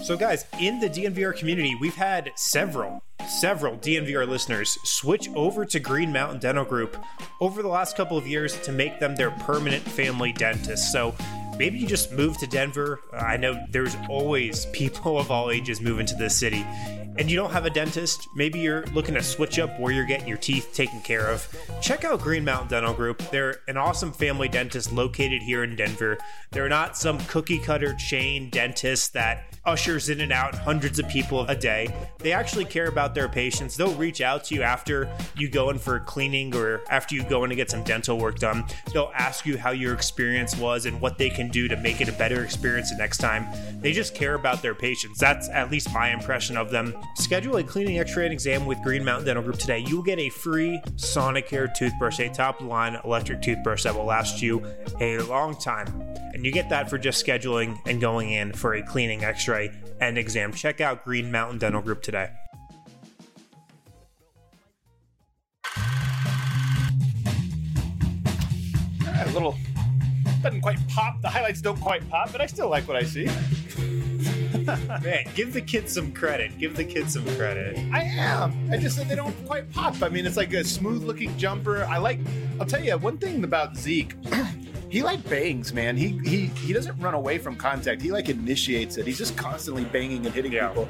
So guys, in the DNVR community, we've had several DNVR listeners switch over to Green Mountain Dental Group over the last couple of years to make them their permanent family dentist. So maybe you just moved to Denver. I know there's always people of all ages moving to this city, and you don't have a dentist. Maybe you're looking to switch up where you're getting your teeth taken care of. Check out Green Mountain Dental Group. They're an awesome family dentist located here in Denver. They're not some cookie cutter chain dentist that ushers in and out hundreds of people a day. They actually care about their patients. They'll reach out to you after you go in for cleaning or after you go in to get some dental work done. They'll ask you how your experience was and what they can do to make it a better experience the next time. They just care about their patients. That's at least my impression of them. Schedule a cleaning, x-ray, and exam with Green Mountain Dental Group today. You will get a free Sonicare toothbrush, a top-of-the-line electric toothbrush that will last you a long time. And you get that for just scheduling and going in for a cleaning, x-ray, and exam. Check out Green Mountain Dental Group today. A little doesn't quite pop. The highlights don't quite pop, but I still like what I see. Man, give the kids some credit. Give the kids some credit. I am. I just said they don't quite pop. I mean, it's like a smooth-looking jumper. I'll tell you one thing about Zeke. He like bangs, man. He doesn't run away from contact. He like initiates it. He's just constantly banging and hitting people.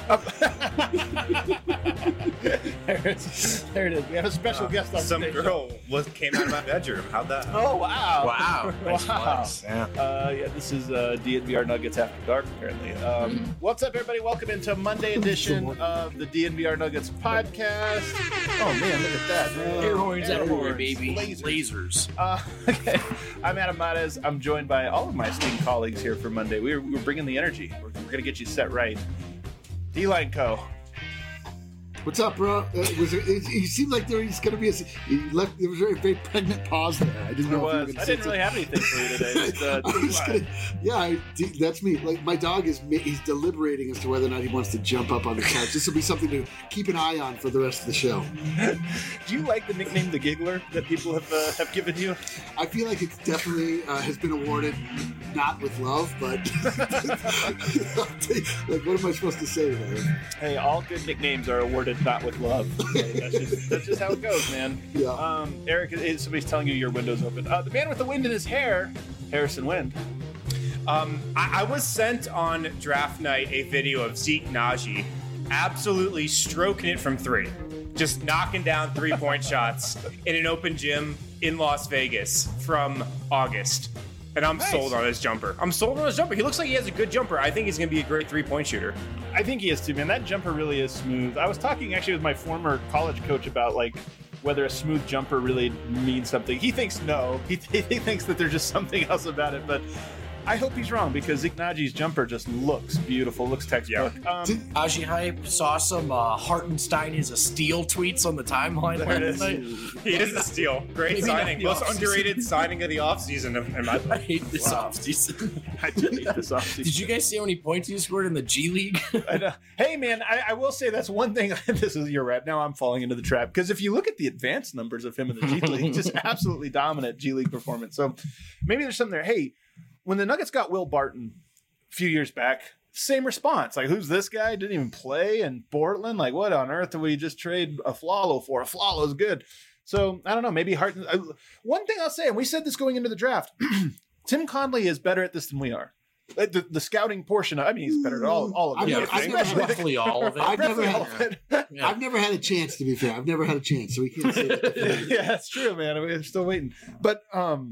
There it is. We have a special guest on Some stage. girl came out of my bedroom. How'd that happen? Oh, wow. Wow. Wow. Yeah. This is DNVR Nuggets After Dark, apparently. What's up, everybody? Welcome into Monday edition of the DNVR Nuggets podcast. Oh, man, look at that. Air horns everywhere, horns, baby. Lasers. Lasers. Okay. I'm Adam Mares. I'm joined by all of my esteemed colleagues here for Monday. We're bringing the energy. We're going to get you set right. D-Line Co. What's up, bro? He seemed like there was going to be there was a very pregnant pause there. I didn't know if you were going to I say didn't really have anything for you today. That's me. Like my dog he's deliberating as to whether or not he wants to jump up on the couch. This will be something to keep an eye on for the rest of the show. Do you like the nickname the Giggler that people have given you? I feel like it definitely has been awarded not with love, but like what am I supposed to say to that? Hey, all good nicknames are awarded not with love. Okay, that's just how it goes, man. Yeah. Eric, somebody's telling you your window's open. The man with the wind in his hair, Harrison Wind. I was sent on draft night a video of Zeke Naji absolutely stroking it from three. Just knocking down 3-point shots in an open gym in Las Vegas from August. And I'm sold on his jumper. He looks like he has a good jumper. I think he's going to be a great 3-point shooter. I think he is too, man. That jumper really is smooth. I was talking actually with my former college coach about like whether a smooth jumper really means something. He thinks no. He thinks that there's just something else about it, but I hope he's wrong because Zeke Naji's jumper just looks beautiful, looks textbook. Yeah. Aji Hype saw some Hartenstein is a steal tweets on the timeline There it last is. night. He is a steal. Great Maybe signing. not Most the underrated signing of the offseason. In my I hate this offseason. I did hate this offseason. Did you guys see how many points he scored in the G League? I know. Hey, man, I will say that's one thing. This is your rap. Now I'm falling into the trap because if you look at the advanced numbers of him in the G League, just absolutely dominant G League performance. So maybe there's something there. Hey, when the Nuggets got Will Barton a few years back, same response. Like, who's this guy? Didn't even play in Portland. Like, what on earth did we just trade a Flalo for? A Flalo's good. So I don't know. Maybe Harton. One thing I'll say, and we said this going into the draft, Tim Conley is better at this than we are. The scouting portion. I mean, he's better at all of it. Roughly all of it. I've never had a chance, to be fair. I've never had a chance, so we can't say that. Yeah, that's true, man. We're still waiting. But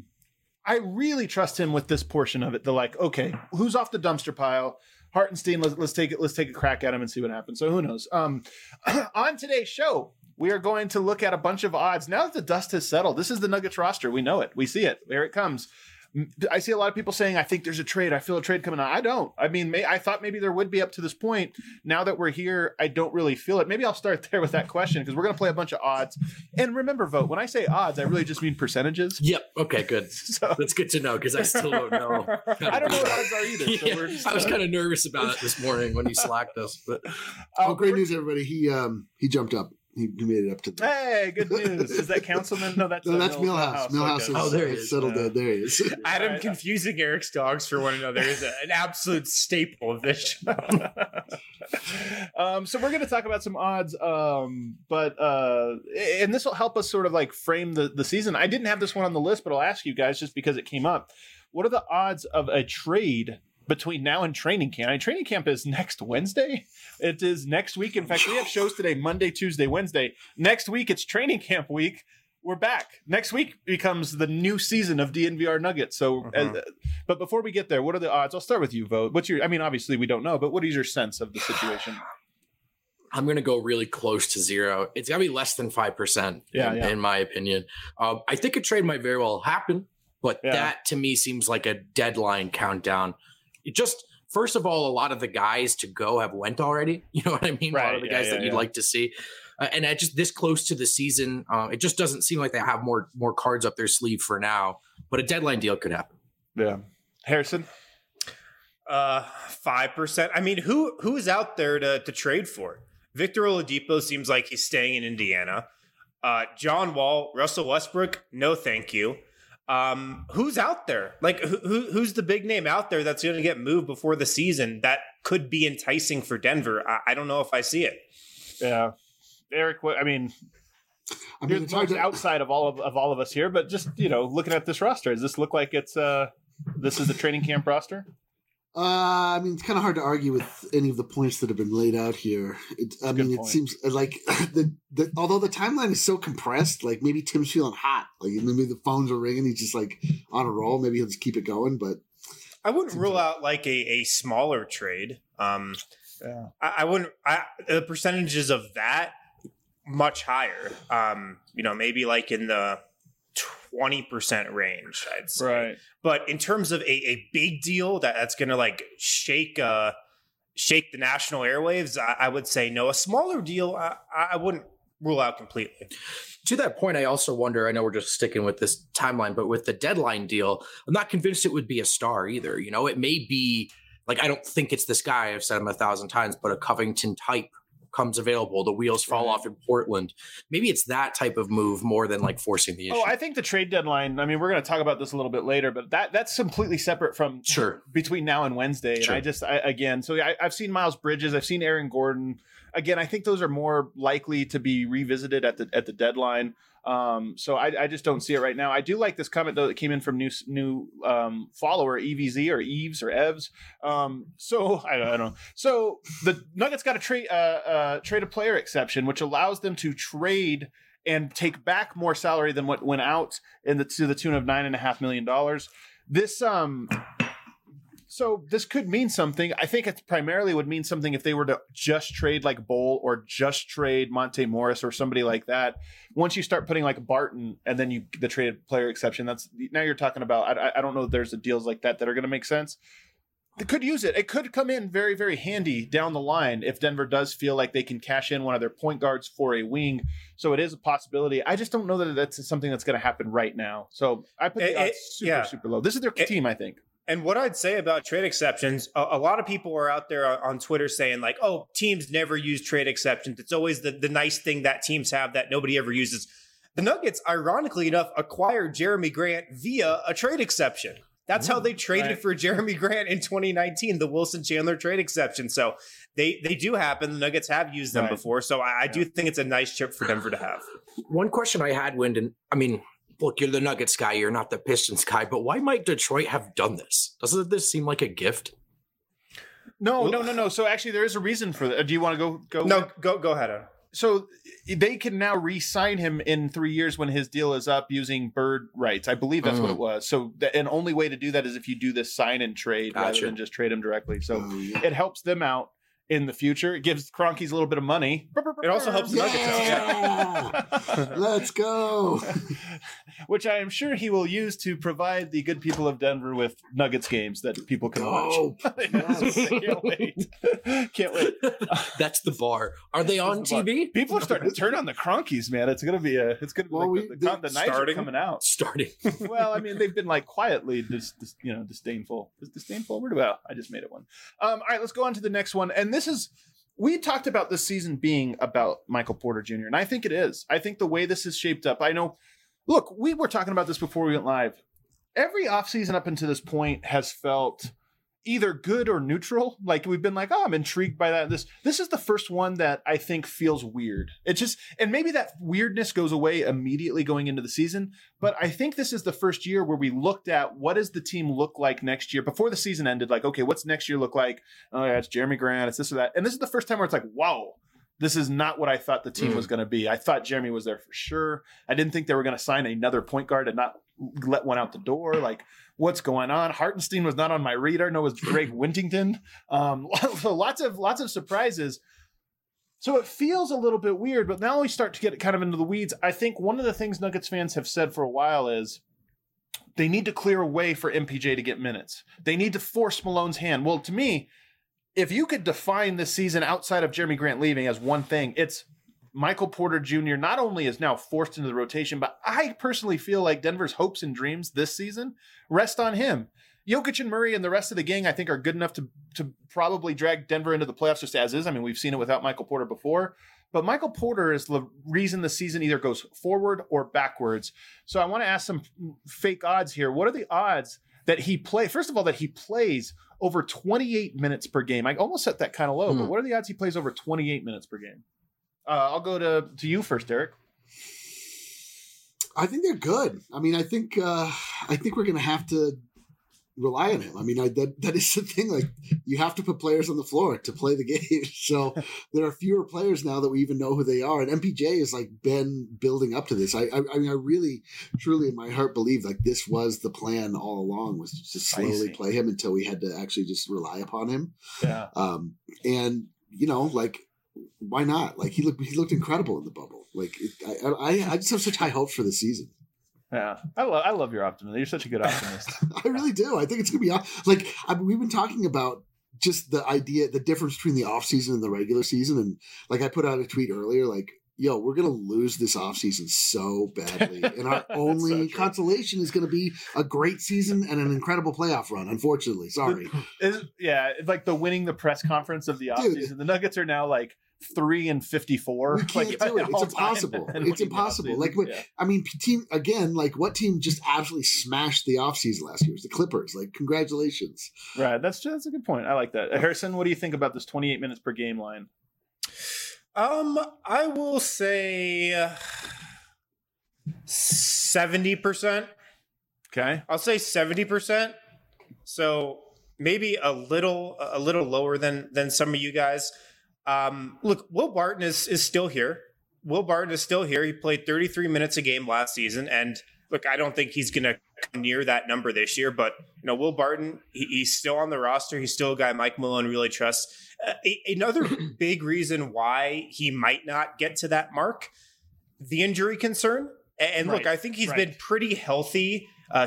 I really trust him with this portion of it. The like, okay, who's off the dumpster pile? Hartenstein, let's take a crack at him and see what happens. So who knows? On today's show, we are going to look at a bunch of odds. Now that the dust has settled, this is the Nuggets roster. We know it. We see it. There it comes. I see a lot of people saying, I think there's a trade. I feel a trade coming on. I don't. I mean, I thought maybe there would be up to this point. Now that we're here, I don't really feel it. Maybe I'll start there with that question because we're going to play a bunch of odds. And remember, vote. When I say odds, I really just mean percentages. Yep. Okay, good. So that's good to know because I still don't know. I don't know what odds are either. So Yeah, we're just, I was kind of nervous about it this morning when you slacked us. But Great news, everybody. He jumped up. He made it up to the. Hey, good news. Is that Councilman? No, that's Millhouse. Millhouse Okay. is there he is. settled in. There he is. Adam confusing Eric's dogs for one another is an absolute staple of this show. So we're going to talk about some odds, and this will help us sort of like frame the season. I didn't have this one on the list, but I'll ask you guys just because it came up. What are the odds of a trade between now and training camp? Training camp is next Wednesday. It is next week. In fact, we have shows today, Monday, Tuesday, Wednesday. Next week, it's training camp week. We're back. Next week becomes the new season of DNVR Nuggets. So, but before we get there, what are the odds? I'll start with you, Vogt. Obviously we don't know, but what is your sense of the situation? I'm going to go really close to zero. It's got to be less than 5%, in my opinion. I think a trade might very well happen, but that to me seems like a deadline countdown. It just, first of all, a lot of the guys to go have went already. You know what I mean? Right, a lot of the guys that you'd like to see. And at just this close to the season, it just doesn't seem like they have more cards up their sleeve for now. But a deadline deal could happen. Yeah. Harrison? 5%. I mean, who's out there to trade for? Victor Oladipo seems like he's staying in Indiana. John Wall, Russell Westbrook, no thank you. Who's out there? Like, who's the big name out there that's going to get moved before the season that could be enticing for Denver? I don't know if I see it. Yeah. Eric, it's hard outside of all of us here, but just, looking at this roster, does this look like this is a training camp roster? It's kind of hard to argue with any of the points that have been laid out here. It seems like although the timeline is so compressed, like maybe Tim's feeling hot, like maybe the phones are ringing, he's just like on a roll. Maybe he'll just keep it going, but I wouldn't rule out like a smaller trade. I wouldn't. The percentages of that much higher. Maybe like in the 20% range, I'd say. Right. But in terms of a big deal that's going to like shake the national airwaves, I would say no. A smaller deal, I wouldn't rule out completely. To that point, I also wonder, I know we're just sticking with this timeline, but with the deadline deal, I'm not convinced it would be a star either. It may be like, I don't think it's this guy, I've said him 1,000 times, but a Covington type comes available, the wheels fall off in Portland. Maybe it's that type of move more than like forcing the issue. Oh, I think the trade deadline, we're going to talk about this a little bit later, but that's completely separate from between now and Wednesday. Sure. And I've seen Miles Bridges, I've seen Aaron Gordon. Again, I think those are more likely to be revisited at the deadline. So I just don't see it right now. I do like this comment though that came in from new follower EVZ or Eves or Evs. So I don't know. So the Nuggets got a trade a player exception, which allows them to trade and take back more salary than what went out to the tune of $9.5 million. So this could mean something. I think it primarily would mean something if they were to just trade like Bol or just trade Monte Morris or somebody like that. Once you start putting like Barton and then the traded player exception, now you're talking about, I don't know if there's deals like that are going to make sense. They could use it. It could come in very, very handy down the line if Denver does feel like they can cash in one of their point guards for a wing. So it is a possibility. I just don't know that that's something that's going to happen right now. So I put the odds super low. This is their team, I think. And what I'd say about trade exceptions, a lot of people are out there on Twitter saying like, oh, teams never use trade exceptions. It's always the nice thing that teams have that nobody ever uses. The Nuggets, ironically enough, acquired Jeremy Grant via a trade exception. That's how they traded for Jeremy Grant in 2019, the Wilson Chandler trade exception. So they do happen. The Nuggets have used them before. So I do think it's a nice chip for Denver to have. One question I had, Wyndon, look, you're the Nuggets guy, you're not the Pistons guy, but why might Detroit have done this? Doesn't this seem like a gift? No. So actually, there is a reason for that. Do you want to go? No, go ahead, Adam. So they can now re-sign him in 3 years when his deal is up using bird rights. I believe that's what it was. So the only way to do that is if you do this sign and trade rather than just trade him directly. So it helps them out in the future. It gives Kroenkes a little bit of money. It also helps the Nuggets out. Let's go. Which I am sure he will use to provide the good people of Denver with Nuggets games that people can watch. Can't wait. Can't wait. That's the bar. Are they on TV? People are starting to turn on the Kroenkes, man. It's gonna be the nights are coming out. Starting. Well, they've been like quietly disdainful. Is disdainful a word? Well, I just made it one. All right, let's go on to the next one. And this is we talked about this season being about Michael Porter Jr., and I think it is. I think the way this is shaped up, I know, look, we were talking about this before we went live. Every offseason up until this point has felt either good or neutral. Like we've been like, oh, I'm intrigued by that. This is the first one that I think feels weird. It just, and maybe that weirdness goes away immediately going into the season. But I think this is the first year where we looked at what does the team look like next year before the season ended. Like, okay, what's next year look like? Oh yeah, it's Jeremy Grant. It's this or that. And this is the first time where it's like, wow, this is not what I thought the team was going to be. I thought Jeremy was there for sure. I didn't think they were going to sign another point guard and not let one out the door. Like, what's going on? Hartenstein was not on my radar. No, it was Greg Wintington. So lots of surprises. So it feels a little bit weird, but now we start to get kind of into the weeds. I think one of the things Nuggets fans have said for a while is they need to clear a way for MPJ to get minutes. They need to force Malone's hand. Well, to me, if you could define this season outside of Jeremy Grant leaving as one thing, it's Michael Porter Jr. not only is now forced into the rotation, but I personally feel like Denver's hopes and dreams this season rest on him. Jokic and Murray and the rest of the gang, I think, are good enough to probably drag Denver into the playoffs just as is. I mean, we've seen it without Michael Porter before. But Michael Porter is the reason the season either goes forward or backwards. So I want to ask some fake odds here. What are the odds that he first of all, that he plays over 28 minutes per game? I almost set that kind of low, but what are the odds he plays over 28 minutes per game? I'll go to you first, Derek. I think they're good. I mean, I think we're going to have to rely on him. I mean, that is the thing. Like, you have to put players on the floor to play the game. So there are fewer players now that we even know who they are. And MPJ has like been building up to this. I mean, I really, truly in my heart believe like this was the plan all along, was to slowly play him until we had to actually just rely upon him. Yeah. And you know, like, why not? Like he looked incredible in the bubble. Like I just have such high hopes for the season. Yeah, I love your optimism. You're such a good optimist. I really do. I think it's gonna be like we've been talking about just the difference between the off season and the regular season, and like I put out a tweet earlier, like, yo, we're gonna lose this off season so badly, and our only consolation is gonna be a great season and an incredible playoff run. Unfortunately, sorry. It's like the winning the press conference of the off season. The Nuggets are now like 3-54. We can't do it. It's impossible. It's impossible. Like, I mean, team again. Like, what team just absolutely smashed the offseason last year? It was the Clippers. Like, congratulations. Right. That's a good point. I like that. Harrison, what do you think about this 28 minutes per game line? I will say 70%. Okay. I'll say 70%. So maybe a little lower than some of you guys. Look, Will Barton is still here. Will Barton is still here. He played 33 minutes a game last season. And look, I don't think he's going to come near that number this year. But, you know, Will Barton, he's still on the roster. He's still a guy Mike Malone really trusts. Another big reason why he might not get to that mark, the injury concern. And look, I think he's been pretty healthy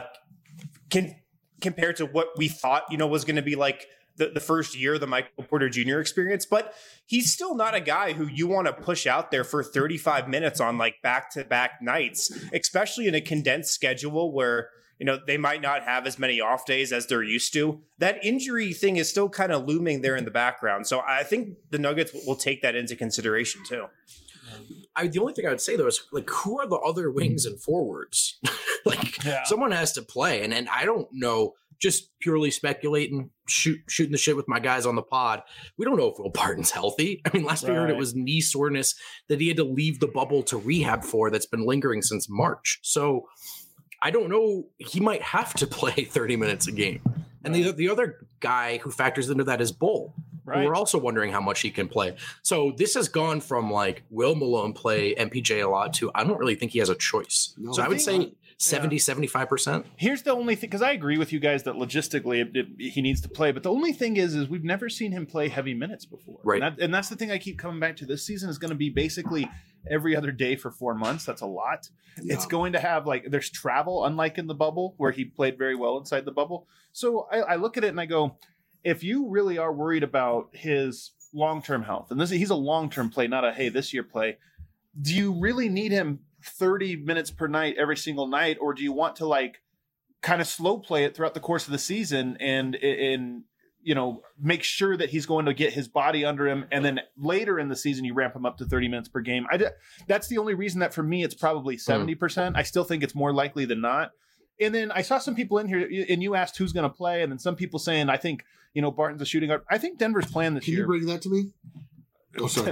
compared to what we thought, you know, was going to be like the first year of the Michael Porter Jr. experience, but he's still not a guy who you want to push out there for 35 minutes on like back-to-back nights, especially in a condensed schedule where, you know, they might not have as many off days as they're used to. That injury thing is still kind of looming there in the background. So I think the Nuggets will take that into consideration too. The only thing I would say though is like, who are the other wings and forwards? Someone has to play. And I don't know, just purely speculating, shooting the shit with my guys on the pod. We don't know if Will Barton's healthy. I mean, last we heard it was knee soreness that he had to leave the bubble to rehab for that's been lingering since March. So I don't know. He might have to play 30 minutes a game. And the other guy who factors into that is Bull. Right. We're also wondering how much he can play. So this has gone from like, will Malone play MPJ a lot to I don't really think he has a choice. No, so I would say 75%. Here's the only thing, because I agree with you guys that logistically he needs to play. But the only thing is we've never seen him play heavy minutes before. Right. And that's the thing I keep coming back to. This season is going to be basically every other day for 4 months. That's a lot. Yeah. It's going to have there's travel, unlike in the bubble where he played very well inside the bubble. So I look at it and I go, if you really are worried about his long-term health, and he's a long-term play, not a, hey, this year play, do you really need him 30 minutes per night every single night? Or do you want to kind of slow play it throughout the course of the season and make sure that he's going to get his body under him. And then later in the season, you ramp him up to 30 minutes per game. That's the only reason that for me, it's probably 70%. I still think it's more likely than not. And then I saw some people in here and you asked who's going to play. And then some people saying, I think, Barton's a shooting guard. I think Denver's playing this year. Can you bring that to me? Oh, sorry.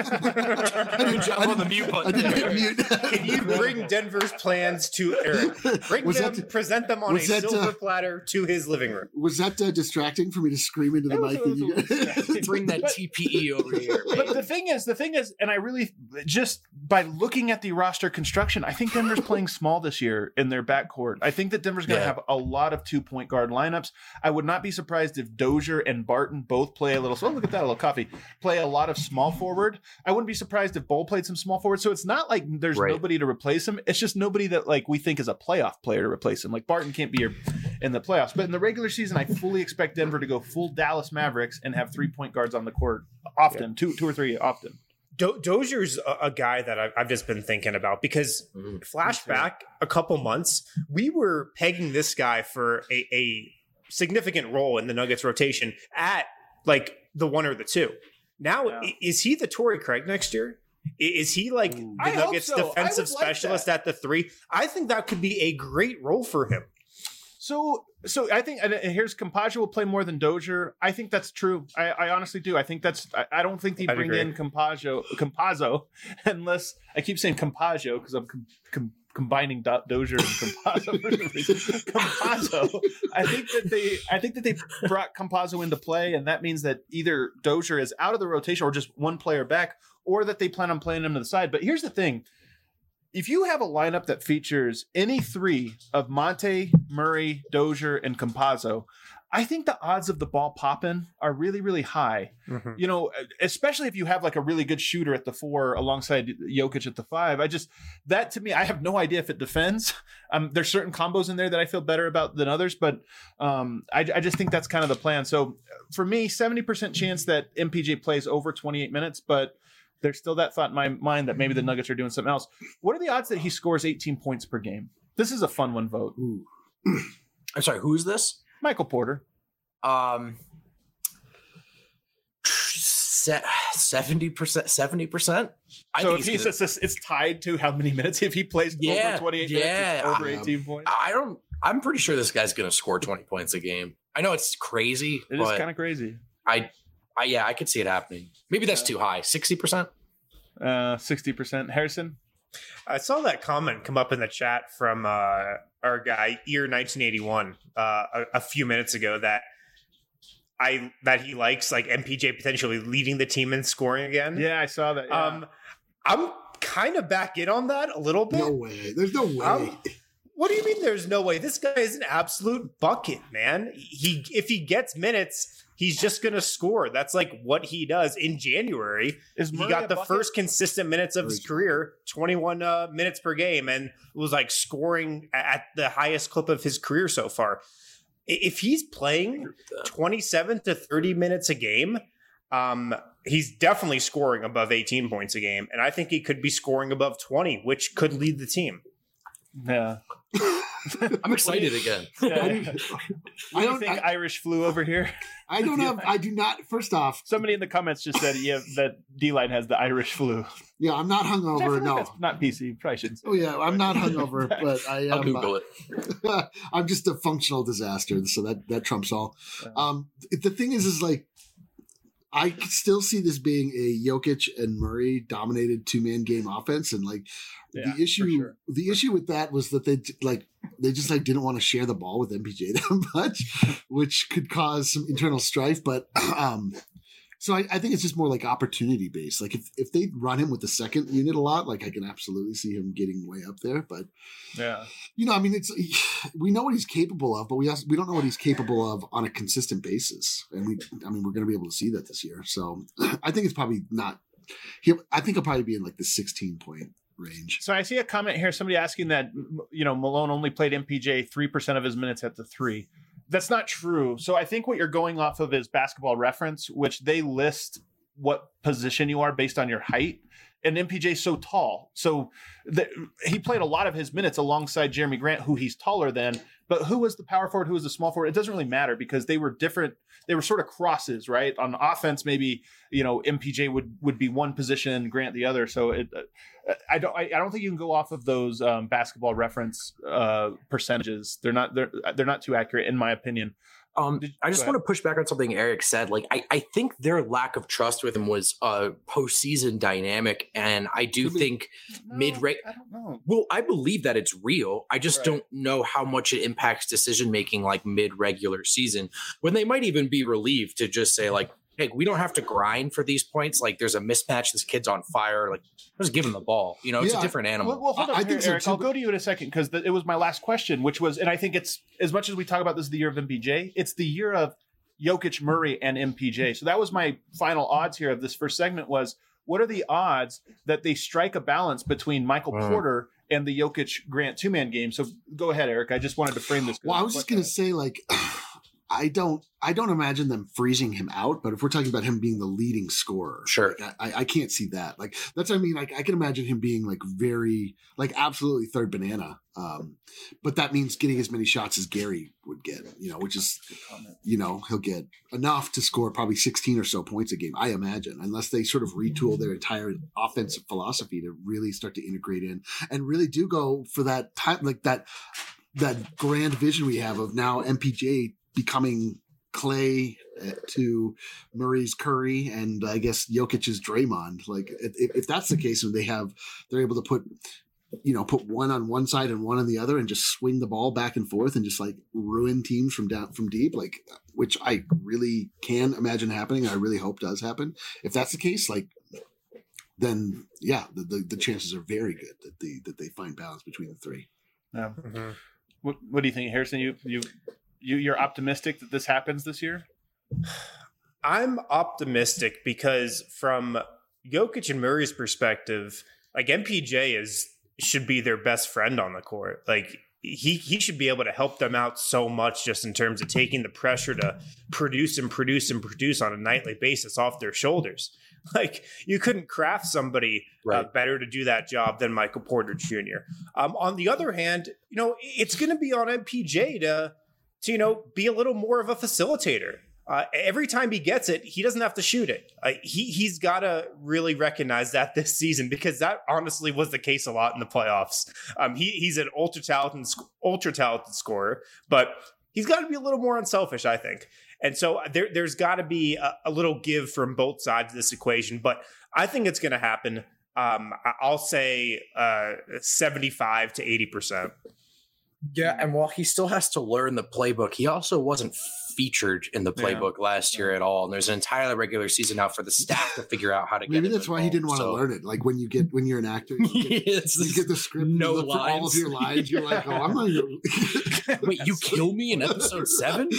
On the mute button. I didn't hit mute. Can you bring Denver's plans to Eric? Present them on a silver platter to his living room. Was that distracting for me to scream into the mic? Bring that TPE over here. But the thing is, and I really, just by looking at the roster construction, I think Denver's playing small this year in their backcourt. I think that Denver's going to have a lot of 2-point guard lineups. I would not be surprised if Dozier and Barton both play a little, look at that, a little coffee, play a lot of small forward. I wouldn't be surprised if Bull played some small forward. So it's not like there's nobody to replace him. It's just nobody that we think is a playoff player to replace him. Like Barton can't be here in the playoffs, but in the regular season, I fully expect Denver to go full Dallas Mavericks and have 3-point guards on the court often, two or three often. Dozier's a guy that I've just been thinking about because flashback a couple months, we were pegging this guy for a significant role in the Nuggets rotation at the 1 or the 2. Now, is he the Torrey Craig next year? Is he the Nuggets defensive specialist at the 3? I think that could be a great role for him. So I think, and here's Campazzo will play more than Dozier. I think that's true. I honestly do. I think I don't think they bring in Campazzo unless I keep saying Campazzo because I'm combining Dozier and Campazzo. Campazzo. I think that they brought Campazzo into play, and that means that either Dozier is out of the rotation or just one player back, or that they plan on playing him to the side. But here's the thing. If you have a lineup that features any 3 of Monte, Murray, Dozier, and Campazzo, I think the odds of the ball popping are really, really high. Mm-hmm. Especially if you have a really good shooter at the 4 alongside Jokic at the 5. That to me, I have no idea if it defends. There's certain combos in there that I feel better about than others, but I just think that's kind of the plan. So for me, 70% chance that MPJ plays over 28 minutes, but there's still that thought in my mind that maybe the Nuggets are doing something else. What are the odds that he scores 18 points per game? This is a fun one, vote. Ooh. I'm sorry, who is this? Michael Porter. 70%. So if it's tied to how many minutes if he plays over 28 minutes, it's over 18 points. I'm pretty sure this guy's going to score 20 points a game. I know it's crazy. It is kind of crazy. I could see it happening. Maybe that's too high. 60%? 60%. Harrison? I saw that comment come up in the chat from our guy, Ear1981, a few minutes ago that he likes MPJ potentially leading the team in scoring again. Yeah, I saw that. Yeah. I'm kind of back in on that a little bit. No way. There's no way. What do you mean there's no way? This guy is an absolute bucket, man. If he gets minutes, he's just going to score. That's what he does. In January, he got the first consistent minutes of his career, 21 minutes per game, and was scoring at the highest clip of his career so far. If he's playing 27 to 30 minutes a game, he's definitely scoring above 18 points a game. And I think he could be scoring above 20, which could lead the team. Yeah. I'm excited again. Yeah. I don't think Irish flu over here. I do not. First off, somebody in the comments just said that D-Line has the Irish flu. Yeah, I'm not hungover. No, that's not PC. Probably shouldn't say. Oh yeah, I'm not hungover, but I am. I'll Google it. I'm just a functional disaster, so that trumps all. The thing is I still see this being a Jokic and Murray dominated 2-man game offense, and the issue with that was that they just didn't want to share the ball with MPJ that much, which could cause some internal strife. But so I think it's just more opportunity based. If they run him with the second unit a lot, I can absolutely see him getting way up there. But yeah, we know what he's capable of, but we don't know what he's capable of on a consistent basis. And we're going to be able to see that this year. So I think it's probably not. I think he'll probably be in the 16-point range. So I see a comment here. Somebody asking that Malone only played MPJ 3% of his minutes at the 3. That's not true. So I think what you're going off of is Basketball Reference, which they list what position you are based on your height. And MPJ's so tall. So he played a lot of his minutes alongside Jeremy Grant, who he's taller than. But who was the power forward? Who was the small forward? It doesn't really matter because they were different. They were sort of crosses, right? On offense, maybe, MPJ would be one position, Grant the other. So I don't think you can go off of those Basketball Reference percentages. They're not too accurate in my opinion. I just want to push back on something Eric said. Like, I think their lack of trust with him was a postseason dynamic, and I do think mid-range. I don't know. Well, I believe that it's real. I just don't know how much it impacts decision making, like mid-regular season, when they might even be relieved to just say, like, hey, we don't have to grind for these points. Like, there's a mismatch. This kid's on fire. Like, just give him the ball. It's a different animal. Well, hold on, I think so Eric. too, I'll go to you in a second because it was my last question, which was, and I think it's, as much as we talk about this is the year of MPJ, it's the year of Jokic, Murray, and MPJ. So that was my final odds here of this first segment was, what are the odds that they strike a balance between Michael Porter and the Jokic Grant two-man game? So go ahead, Eric. I just wanted to frame this. Well, I was just going to say, like, I don't imagine them freezing him out, but if we're talking about him being the leading scorer, sure, like, I can't see that. Like, that's what I mean. Like, I can imagine him being like very, like, absolutely third banana. But that means getting as many shots as Gary would get, which is, he'll get enough to score probably 16 or so points a game, I imagine, unless they sort of retool their entire offensive philosophy to really start to integrate in and really do go for that time, like that grand vision we have of now MPJ becoming Clay to Murray's Curry and I guess Jokic's Draymond. Like if that's the case, and they're able to put one on one side and one on the other and just swing the ball back and forth and just like ruin teams from deep, like, which I really can imagine happening. I really hope does happen. If that's the case, like, then yeah, the chances are very good that they find balance between the three. Yeah. Mm-hmm. What do you think, Harrison? You're optimistic that this happens this year? I'm optimistic because from Jokic and Murray's perspective, like MPJ should be their best friend on the court. Like he should be able to help them out so much just in terms of taking the pressure to produce on a nightly basis off their shoulders. Like you couldn't craft somebody better to do that job than Michael Porter Jr. On the other hand, it's going to be on MPJ to be a little more of a facilitator. Every time he gets it, he doesn't have to shoot it. He's got to really recognize that this season, because that honestly was the case a lot in the playoffs. He's an ultra talented scorer, but he's got to be a little more unselfish, I think. And so there's got to be a little give from both sides of this equation, but I think it's going to happen. I'll say 75 to 80%. Yeah, and while he still has to learn the playbook, he also wasn't featured in the playbook last year at all. And there's an entire regular season now for the staff to figure out how to get Maybe that's why he didn't want to learn it. Like when you're an actor, you get the script, no you look for all of your lines. You're like, oh, I'm not even... Wait, you kill me in episode 7?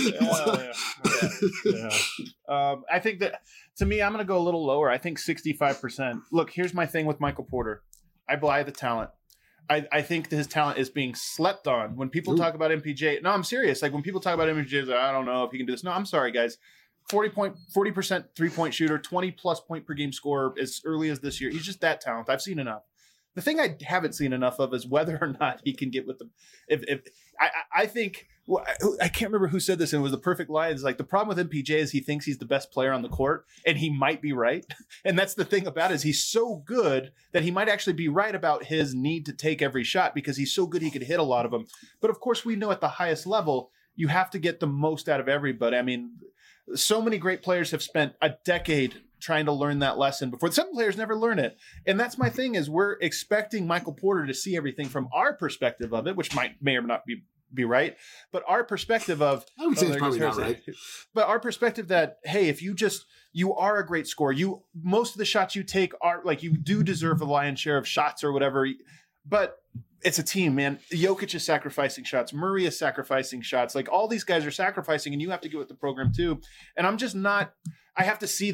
I think that, to me, I'm going to go a little lower. I think 65%. Look, here's my thing with Michael Porter. I buy the talent. I think that his talent is being slept on. When people talk about MPJ, no, I'm serious. Like when people talk about MPJ, I don't know if he can do this. No, I'm sorry, guys. 40% 3-point shooter, 20 plus point per game scorer as early as this year. He's just that talented. I've seen enough. The thing I haven't seen enough of is whether or not he can get with them. I think, I can't remember who said this, and it was the perfect line. It's like the problem with MPJ is he thinks he's the best player on the court, and he might be right. And that's the thing about it, is he's so good that he might actually be right about his need to take every shot because he's so good he could hit a lot of them. But of course, we know at the highest level, you have to get the most out of everybody. I mean, so many great players have spent a decade trying to learn that lesson before. Some players never learn it. And that's my thing, is we're expecting Michael Porter to see everything from our perspective of it, which may or not be right. But our perspective of, I would say it's probably not right. But our perspective that, hey, if you are a great scorer, most of the shots you take are like, you do deserve a lion's share of shots or whatever. But it's a team, man. Jokic is sacrificing shots. Murray is sacrificing shots. Like all these guys are sacrificing, and you have to get with the program too. And I'm just not, I have to see that.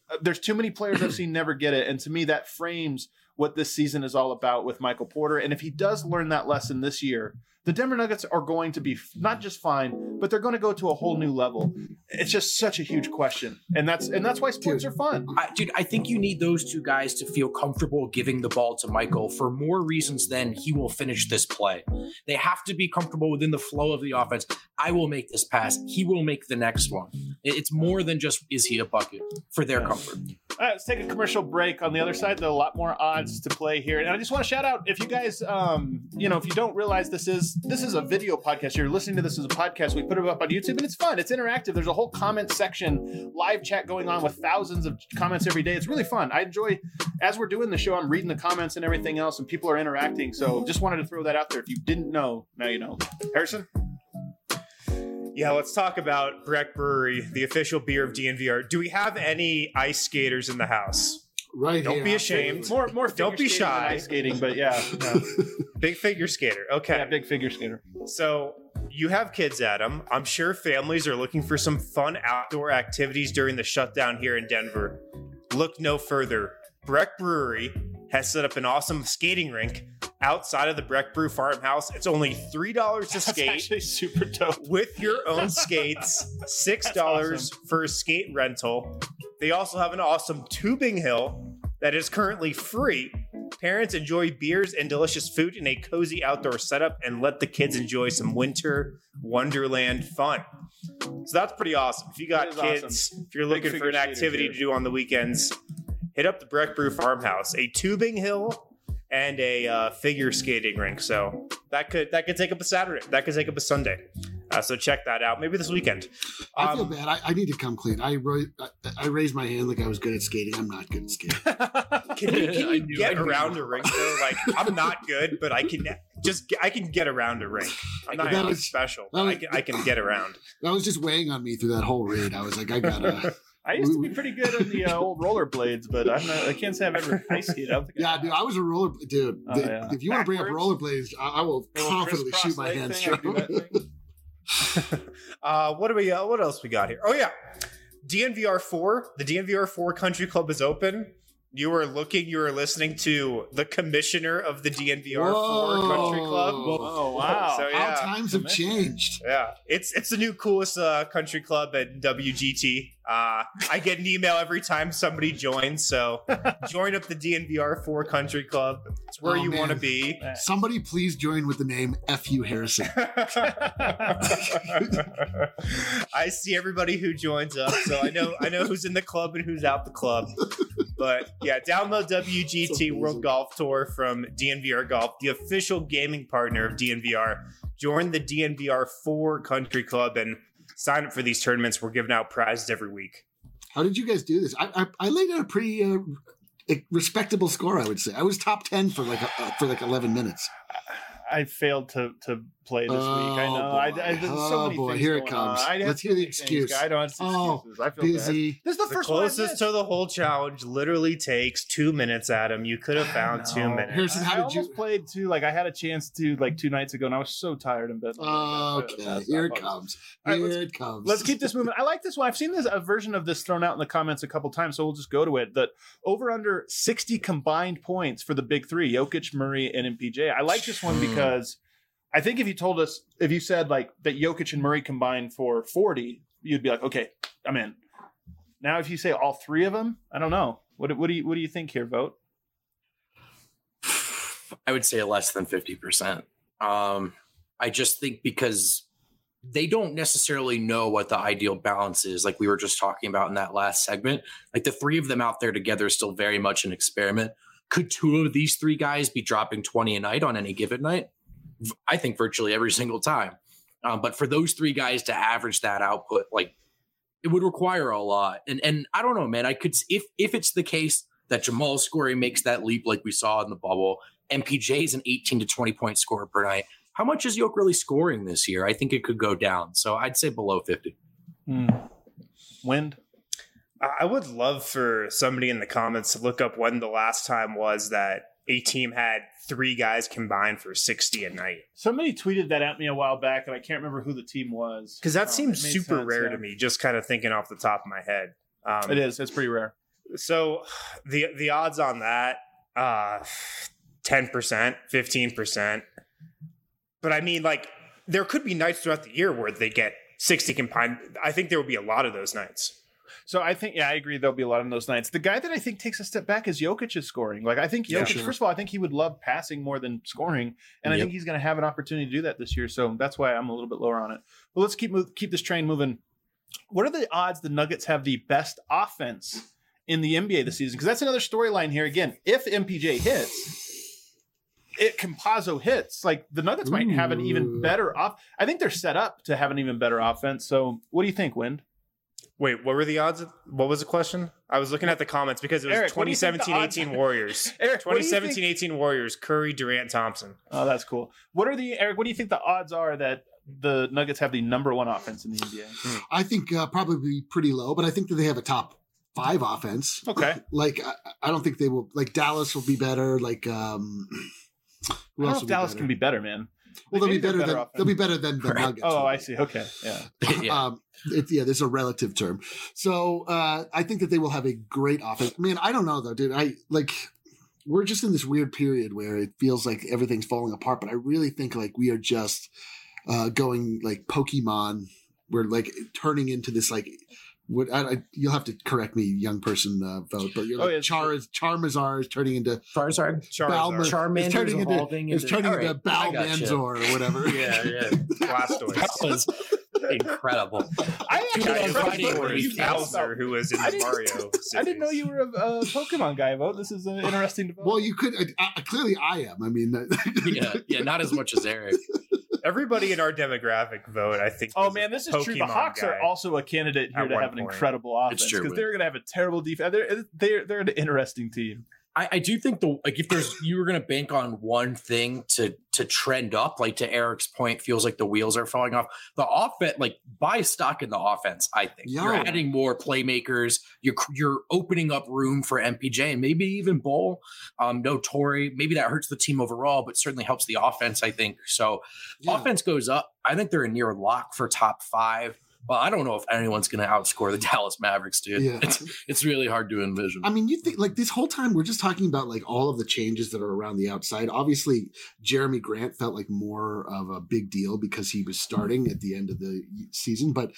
there's too many players I've seen never get it. And to me, that frames what this season is all about with Michael Porter. And if he does learn that lesson this year, the Denver Nuggets are going to be not just fine, but they're going to go to a whole new level. It's just such a huge question. And that's why sports are fun. I think you need those two guys to feel comfortable giving the ball to Michael for more reasons than he will finish this play. They have to be comfortable within the flow of the offense. I will make this pass. He will make the next one. It's more than just, is he a bucket, for their comfort. All right, let's take a commercial break. On the other side, there are a lot more odds to play here. And I just want to shout out, if you guys, if you don't realize this is a video podcast, you're listening to this as a podcast, we put it up on YouTube, and it's fun. It's interactive. There's a whole comment section, live chat going on with thousands of comments every day. It's really fun. I enjoy, as we're doing the show, I'm reading the comments and everything else, and people are interacting. So just wanted to throw that out there. If you didn't know, now you know. Harrison? Yeah, let's talk about Breck Brewery, the official beer of DNVR. Do we have any ice skaters in the house? Right. Don't be ashamed. More don't be shy. Ice skating, but yeah. No. Big figure skater. Okay. Yeah, big figure skater. So you have kids, Adam. I'm sure families are looking for some fun outdoor activities during the shutdown here in Denver. Look no further. Breck Brewery has set up an awesome skating rink outside of the Breck Brew farmhouse. It's only $3 to skate. That's actually super dope. With your own skates, $6 awesome. for a skate rental. They also have an awesome tubing hill that is currently free. Parents enjoy beers and delicious food in a cozy outdoor setup and let the kids enjoy some winter wonderland fun. So that's pretty awesome. If you got kids, awesome. If you're looking for an activity to do on the weekends, hit up the Breck Brew farmhouse. A tubing hill and a figure skating rink. So that could take up a Saturday. That could take up a Sunday. So check that out. Maybe this weekend. I feel bad. I need to come clean. I raised my hand like I was good at skating. I'm not good at skating. Can you get around a rink though? Like, I'm not good, but I can get around a rink. I'm not anything special. I can get around. That was just weighing on me through that whole raid. I was like, I gotta. I used to be pretty good on the old rollerblades, but I can't say I've ever ice skated. Dude, I was a roller dude. If you want to bring up rollerblades, I will confidently shoot my hands straight. What else we got here? Oh yeah, DNVR 4. The DNVR 4 Country Club is open. You were listening to the commissioner of the DNVR 4 Country Club. Oh wow! So, yeah. How times have changed. Yeah, it's the new coolest country club at WGT. I get an email every time somebody joins, so join up the DNVR 4 Country Club. It's where you want to be. Somebody please join with the name F.U. Harrison. I see everybody who joins up, so I know who's in the club and who's out the club. But yeah, download WGT World Golf Tour from DNVR Golf, the official gaming partner of DNVR. Join the DNVR 4 Country Club and sign up for these tournaments. We're giving out prizes every week. How did you guys do this? I laid out a pretty respectable score, I would say. I was top 10 for like 11 minutes. I failed to play this week. I know. There's so many things here it comes. Let's hear the excuse. I don't have excuses. I feel busy. Bad. This is the first closest to the whole challenge. Literally takes 2 minutes, Adam. You could have found 2 minutes. Harrison, how did you played too? Like I had a chance to 2 nights ago, and I was so tired in bed. Okay, here it comes. Here it comes. Let's keep this moving. I like this one. I've seen a version of this thrown out in the comments a couple times, so we'll just go to it. That over under 60 combined points for the big three: Jokic, Murray, and MPJ. I like this one because I think if you said like that Jokic and Murray combined for 40, you'd be like, okay, I'm in. Now, if you say all three of them, I don't know. What do you think here, Vote? I would say less than 50%. I just think because they don't necessarily know what the ideal balance is, like we were just talking about in that last segment. Like the three of them out there together is still very much an experiment. Could two of these three guys be dropping 20 a night on any given night? I think virtually every single time. But for those three guys to average that output, like it would require a lot. And I don't know, man, I could, if it's the case that Jamal Scory makes that leap like we saw in the bubble, MPJ is an 18 to 20 point scorer per night. How much is Yoke really scoring this year? I think it could go down. So I'd say below 50. Wind. I would love for somebody in the comments to look up when the last time was that a team had three guys combined for 60 a night. Somebody tweeted that at me a while back, and I can't remember who the team was. Because that seems super rare to me, just kind of thinking off the top of my head. It is. It's pretty rare. So the odds on that, 10%, 15%. But I mean, like, there could be nights throughout the year where they get 60 combined. I think there will be a lot of those nights. So I think, I agree. There'll be a lot of those nights. The guy that I think takes a step back is Jokic's scoring. Like, I think Jokic, first of all, I think he would love passing more than scoring. And I think he's going to have an opportunity to do that this year. So that's why I'm a little bit lower on it. But let's keep this train moving. What are the odds the Nuggets have the best offense in the NBA this season? Because that's another storyline here. Again, if MPJ hits, Campazzo hits, like the Nuggets might have an even better I think they're set up to have an even better offense. So what do you think, Wind? Wait, what were the odds? What was the question? I was looking at the comments because it was 2017-18 Warriors. Eric, 2017-18 Warriors, Curry, Durant, Thompson. Oh, that's cool. Eric, what do you think the odds are that the Nuggets have the number one offense in the NBA? I think probably pretty low, but I think that they have a top 5 offense. Okay. Like, I don't think they will, like, Dallas will be better. Like, who I don't else know if Dallas can be better, man. Well, they'll be better than the Nuggets. Oh, I see. Okay. Yeah. There's a relative term. So I think that they will have a great offense. Man, I don't know though, dude. We're just in this weird period where it feels like everything's falling apart, but I really think like we are just going like Pokemon. We're like turning into this like. You'll have to correct me, young person vote, but you're like Charizard is turning into Charizard. Charmander is turning into Balmanzor or whatever. Yeah. Blastoise. That was incredible. I actually Bowser, who was in the Mario series. I didn't know you were a Pokemon guy, Vote. This is interesting to vote. Well, you could clearly I am. I mean, not as much as Eric. Everybody in our demographic vote, I think. Oh man, this is true. The Hawks are also a candidate here to have an incredible offense because they're going to have a terrible defense. They're an interesting team. I do think if you were going to bank on one thing to trend up, like to Eric's point, feels like the wheels are falling off. The offense, like buy stock in the offense. I think you're adding more playmakers. You're opening up room for MPJ and maybe even Bol. No Torrey. Maybe that hurts the team overall, but certainly helps the offense. I think so. Offense goes up. I think they're a near lock for top 5. Well, I don't know if anyone's going to outscore the Dallas Mavericks, dude. Yeah. It's really hard to envision. I mean, you think like this whole time we're just talking about like all of the changes that are around the outside. Obviously, Jeremy Grant felt like more of a big deal because he was starting at the end of the season. But,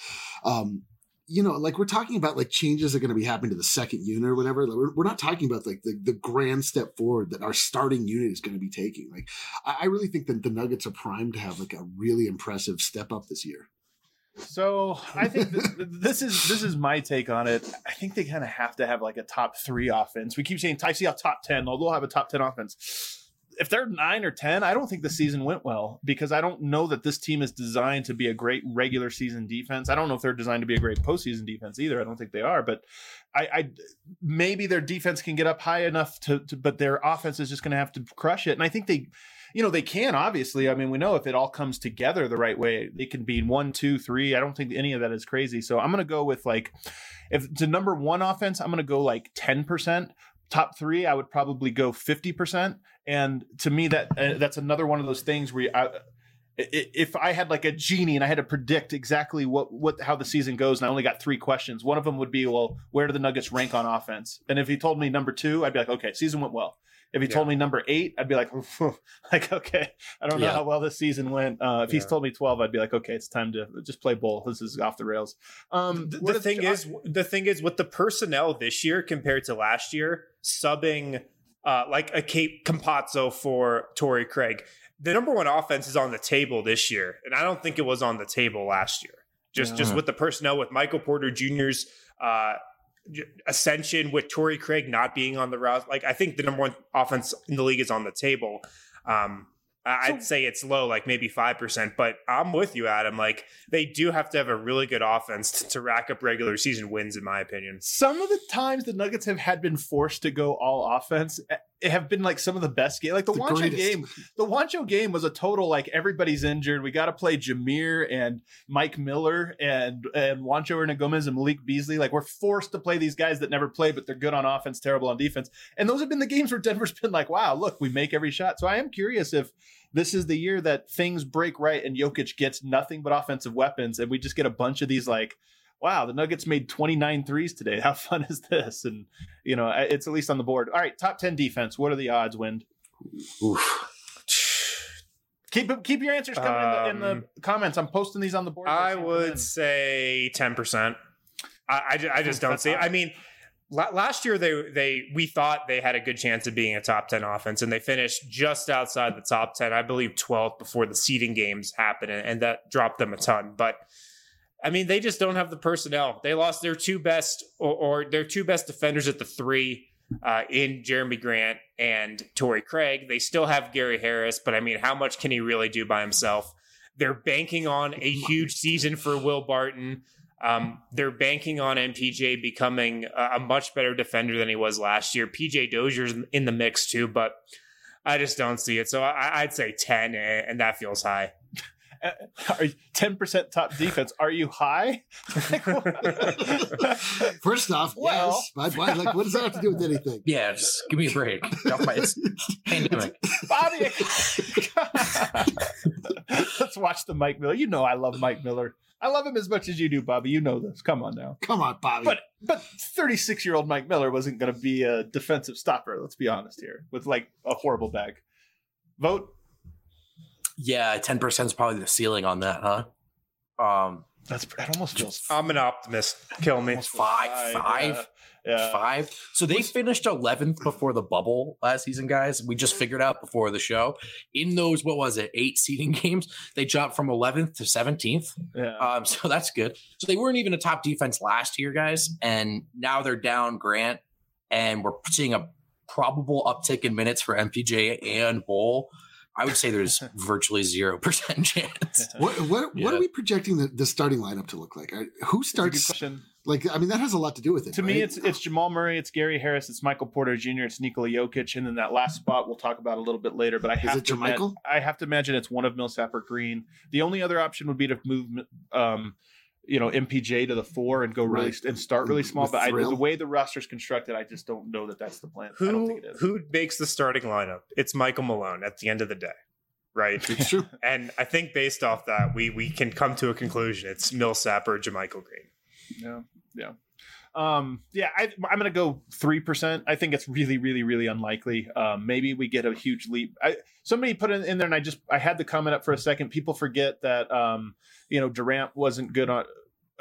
like we're talking about like changes that are going to be happening to the second unit or whatever. Like, we're not talking about like the grand step forward that our starting unit is going to be taking. Like, I really think that the Nuggets are primed to have like a really impressive step up this year. So I think this is my take on it. I think they kind of have to have like a top 3 offense. We keep saying I see a top 10, although they'll have a top 10 offense. If they're 9 or 10, I don't think the season went well because I don't know that this team is designed to be a great regular season defense. I don't know if they're designed to be a great postseason defense either. I don't think they are, but I maybe their defense can get up high enough to but their offense is just going to have to crush it. And I think they can, obviously. I mean, we know if it all comes together the right way, they can be 1, 2, 3. I don't think any of that is crazy. So I'm going to go with like, if it's a number 1 offense, I'm going to go like 10%. Top 3, I would probably go 50%. And to me, that's another one of those things where if I had like a genie and I had to predict exactly how the season goes, and I only got 3 questions, one of them would be, well, where do the Nuggets rank on offense? And if he told me number 2, I'd be like, okay, season went well. If he told me number 8, I'd be like, okay, I don't know how well this season went. If he's told me 12, I'd be like, okay, it's time to just play ball. This is off the rails. The thing is with the personnel this year compared to last year, subbing like a Campazzo for Torrey Craig, the number 1 offense is on the table this year, and I don't think it was on the table last year. Just with the personnel, with Michael Porter Jr.'s ascension, with Torrey Craig not being on the roster. Like, I think the number 1 offense in the league is on the table. I'd say it's low, like maybe 5%, but I'm with you, Adam. Like, they do have to have a really good offense to rack up regular season wins, in my opinion. Some of the times the Nuggets have been forced to go all offense, it have been like some of the best games. Like the Juancho game. The Juancho game was a total like everybody's injured. We got to play Jameer and Mike Miller and Juancho Hernangomez and Malik Beasley. Like, we're forced to play these guys that never play, but they're good on offense, terrible on defense. And those have been the games where Denver's been like, wow, look, we make every shot. So I am curious if this is the year that things break right and Jokic gets nothing but offensive weapons, and we just get a bunch of these like wow, the Nuggets made 29 threes today. How fun is this? And, it's at least on the board. All right, top 10 defense. What are the odds, Wind? Oof. Keep your answers coming in the comments. I'm posting these on the board. I would say 10%. I just don't see it. I mean, last year we thought they had a good chance of being a top 10 offense, and they finished just outside the top 10. I believe 12th before the seeding games happened, and that dropped them a ton. But I mean, they just don't have the personnel. They lost their two best or their two best defenders at the 3 in Jeremy Grant and Torrey Craig. They still have Gary Harris, but I mean, how much can he really do by himself? They're banking on a huge season for Will Barton. They're banking on MPJ becoming a much better defender than he was last year. PJ Dozier's in the mix too, but I just don't see it. So I'd say 10, and that feels high. 10% top defense. Are you high? First off, yes. What does that have to do with anything? Yeah, just give me a break. It's pandemic. Bobby, let's watch the Mike Miller. I love Mike Miller. I love him as much as you do, Bobby. You know this. Come on now. Come on, Bobby. But 36-year-old Mike Miller wasn't going to be a defensive stopper. Let's be honest here. With like a horrible bag. Vote. Yeah, 10% is probably the ceiling on that, huh? That almost feels. I'm an optimist. Kill me. Five. So they finished 11th before the bubble last season, guys. We just figured out before the show. In those, 8 seeding games, they jumped from 11th to 17th. Yeah. So that's good. So they weren't even a top defense last year, guys, and now they're down Grant, and we're seeing a probable uptick in minutes for MPJ and Bull. I would say there's virtually 0% chance. What are we projecting the starting lineup to look like? Who starts? That has a lot to do with it. To me, it's Jamal Murray, it's Gary Harris, it's Michael Porter Jr., it's Nikola Jokic, and then that last spot we'll talk about a little bit later. But I have to imagine it's one of Millsap or Green. The only other option would be to move MPJ to the 4 and go and start really small. But the way the roster's constructed, I just don't know that that's the plan. I don't think it is. Who makes the starting lineup? It's Michael Malone at the end of the day, right? It's true. And I think based off that, we can come to a conclusion. It's Millsap or JaMychal Green. Yeah. I'm going to go 3%. I think it's really, really, really unlikely. Maybe we get a huge leap. Somebody put it in there, and I had the comment up for a second. People forget that Durant wasn't good on.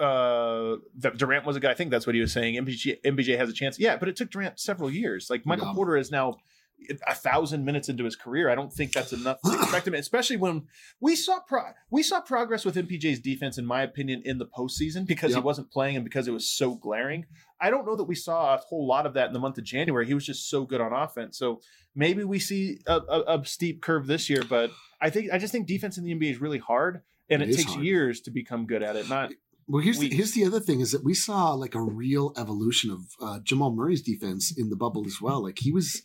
That Durant was a guy. I think that's what he was saying. MPJ has a chance. Yeah, but it took Durant several years. Like Michael Porter is now 1,000 minutes into his career. I don't think that's enough to expect him, especially when we saw progress with MPJ's defense, in my opinion, in the postseason because he wasn't playing and because it was so glaring. I don't know that we saw a whole lot of that in the month of January. He was just so good on offense. So maybe we see a steep curve this year, but I just think defense in the NBA is really hard, and it takes years to become good at it. Here's the other thing is that we saw like a real evolution of Jamal Murray's defense in the bubble as well. Like he was,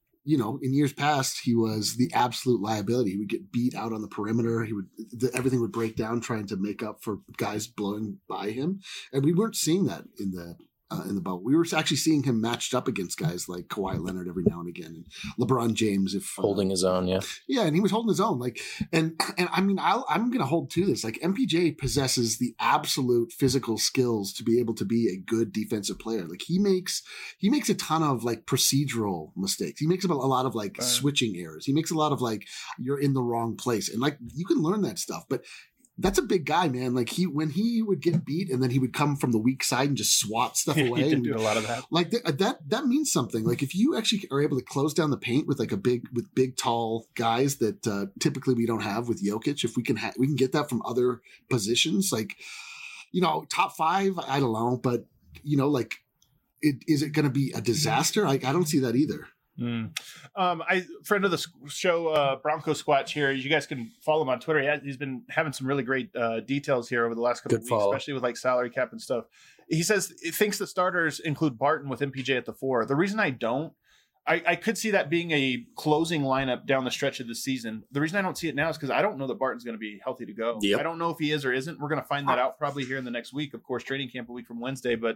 in years past, he was the absolute liability. He would get beat out on the perimeter. Everything would break down trying to make up for guys blowing by him. And we weren't seeing that in the bubble. We were actually seeing him matched up against guys like Kawhi Leonard every now and again, and LeBron James, holding his own. Yeah. And he was holding his own. I'm going to hold to this. Like MPJ possesses the absolute physical skills to be able to be a good defensive player. Like he makes a ton of like procedural mistakes. He makes a lot of like switching errors. He makes a lot of like, you're in the wrong place. And like, you can learn that stuff, but that's a big guy, man. Like when he would get beat and then he would come from the weak side and just swat stuff away. He did do a lot of that. Like that means something. Like if you actually are able to close down the paint with like big tall guys that typically we don't have with Jokic, if we can get that from other positions, like top 5, I don't know, but is it going to be a disaster? Like I don't see that either. Friend of the show, Bronco Squatch here. You guys can follow him on Twitter. He's been having some really great details here over the last couple of weeks, especially with like salary cap and stuff. He says he thinks the starters include Barton with MPJ at the 4. The reason I don't, I could see that being a closing lineup down the stretch of the season. The reason I don't see it now is because I don't know that Barton's going to be healthy to go. Yep. I don't know if he is or isn't. We're going to find that out probably here in the next week. Of course, training camp a week from Wednesday, but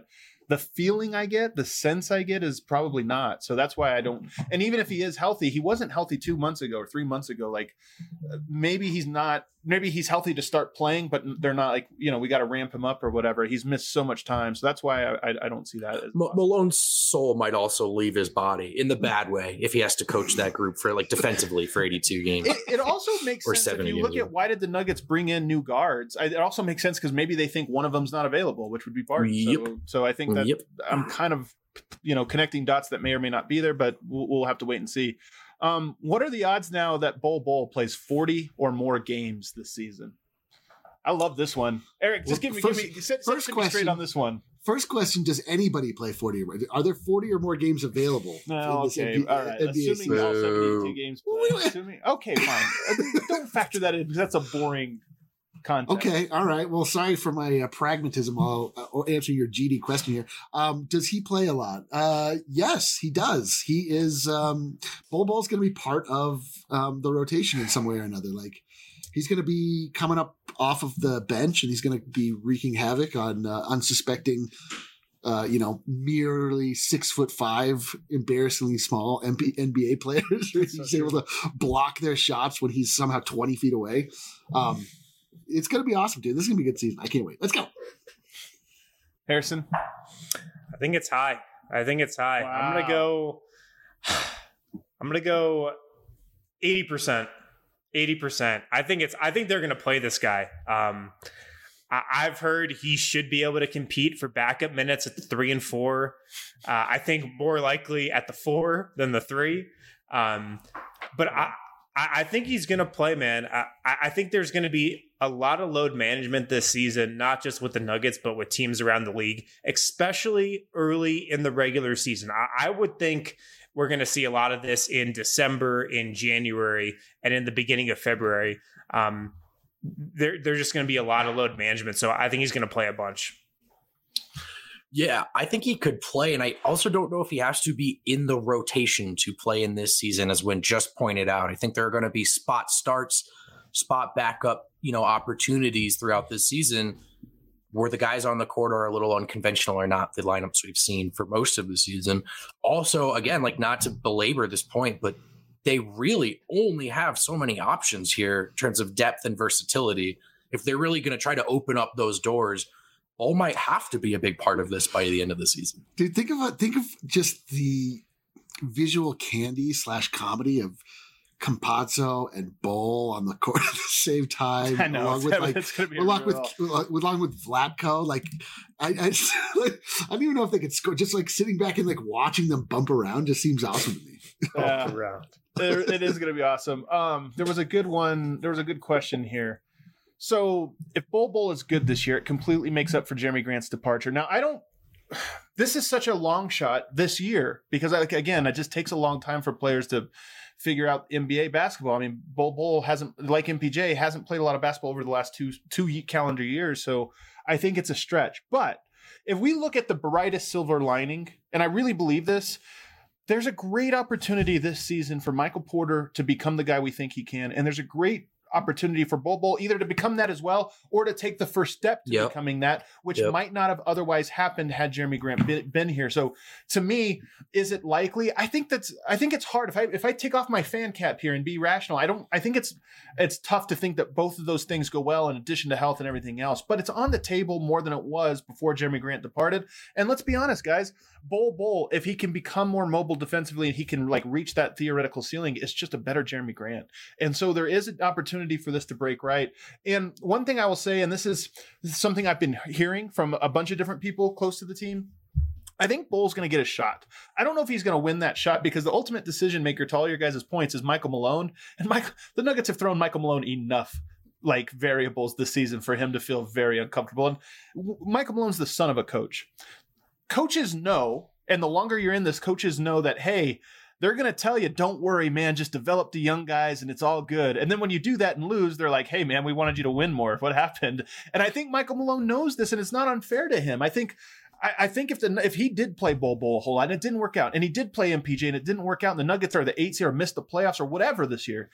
the feeling I get, the sense I get is probably not. So that's why I don't. And even if he is healthy, he wasn't healthy 2 months ago or 3 months ago. Like maybe he's not. Maybe he's healthy to start playing, but they're not like, we got to ramp him up or whatever. He's missed so much time. So that's why I don't see that. As Malone's soul might also leave his body in the bad way if he has to coach that group for like defensively for 82 games. It also makes sense if you look at why did the Nuggets bring in new guards. It also makes sense because maybe they think one of them's not available, which would be Barton. Yep. So I think that I'm kind of connecting dots that may or may not be there, but we'll have to wait and see. What are the odds now that Bol plays 40 or more games this season? I love this one. Eric, just set me straight on this one. First question, does anybody play 40 or more? Are there 40 or more games available? No, okay. All right. Assuming all 72 games play. Okay, fine. Don't factor that in because that's a boring content. Okay, all right. Well, sorry for my pragmatism. I'll answer your GD question here. Does he play a lot? Yes, he does. He is. Bol's going to be part of the rotation in some way or another. Like he's going to be coming up off of the bench, and he's going to be wreaking havoc on unsuspecting. Merely 6'5", embarrassingly small NBA players. He's able to block their shots when he's somehow 20 feet away. It's going to be awesome, dude. This is going to be a good season. I can't wait. Let's go. Harrison? I think it's high. Wow. I'm going to go 80%. 80%. I think they're going to play this guy. I've heard he should be able to compete for backup minutes at the 3 and 4. I think more likely at the 4 than the 3. But I think he's going to play, man. I think there's going to be a lot of load management this season, not just with the Nuggets, but with teams around the league, especially early in the regular season. I would think we're going to see a lot of this in December, in January, and in the beginning of February. There's just going to be a lot of load management. So I think he's going to play a bunch. Yeah, I think he could play. And I also don't know if he has to be in the rotation to play in this season, as Wynn just pointed out. I think there are going to be spot starts, spot backup, opportunities throughout this season where the guys on the court are a little unconventional or not the lineups we've seen for most of the season. Also, again, like not to belabor this point, but they really only have so many options here in terms of depth and versatility. If they're really going to try to open up those doors, Bol might have to be a big part of this by the end of the season. Dude, think of just the visual candy / comedy of Campazzo and Bol on the court at the same time. I know. Along with Vlatko. Like I don't even know if they could score. Just like sitting back and like watching them bump around just seems awesome to me. It is going to be awesome. There was a good one. There was a good question here. So if Bol is good this year, it completely makes up for Jeremy Grant's departure. Now, this is such a long shot this year because, again, it just takes a long time for players to figure out NBA basketball. I mean, Bol hasn't, like MPJ, hasn't played a lot of basketball over the last two calendar years. So I think it's a stretch. But if we look at the brightest silver lining, and I really believe this, there's a great opportunity this season for Michael Porter to become the guy we think he can. And there's a great opportunity for Bol either to become that as well or to take the first step to becoming that, which might not have otherwise happened had Jeremy Grant been here. So to me, is it likely? I think it's hard. If I take off my fan cap here and be rational, I think it's tough to think that both of those things go well in addition to health and everything else, but it's on the table more than it was before Jeremy Grant departed. And let's be honest, guys, Bol, if he can become more mobile defensively and he can like reach that theoretical ceiling, it's just a better Jeremy Grant. And so there is an opportunity for this to break right. And one thing I will say, and this is something I've been hearing from a bunch of different people close to the team, I think Bol's going to get a shot. I don't know if he's going to win that shot because the ultimate decision maker to all your guys' points is Michael Malone. And the Nuggets have thrown Michael Malone enough like variables this season for him to feel very uncomfortable. And Michael Malone's the son of a coach. Coaches know, and the longer you're in this, coaches know that, hey, they're going to tell you, don't worry, man, just develop the young guys and it's all good. And then when you do that and lose, they're like, hey, man, we wanted you to win more. What happened? And I think Michael Malone knows this and it's not unfair to him. I think if he did play Bol a whole lot and it didn't work out, and he did play MPJ and it didn't work out, and the Nuggets are the 8th seed or missed the playoffs or whatever this year,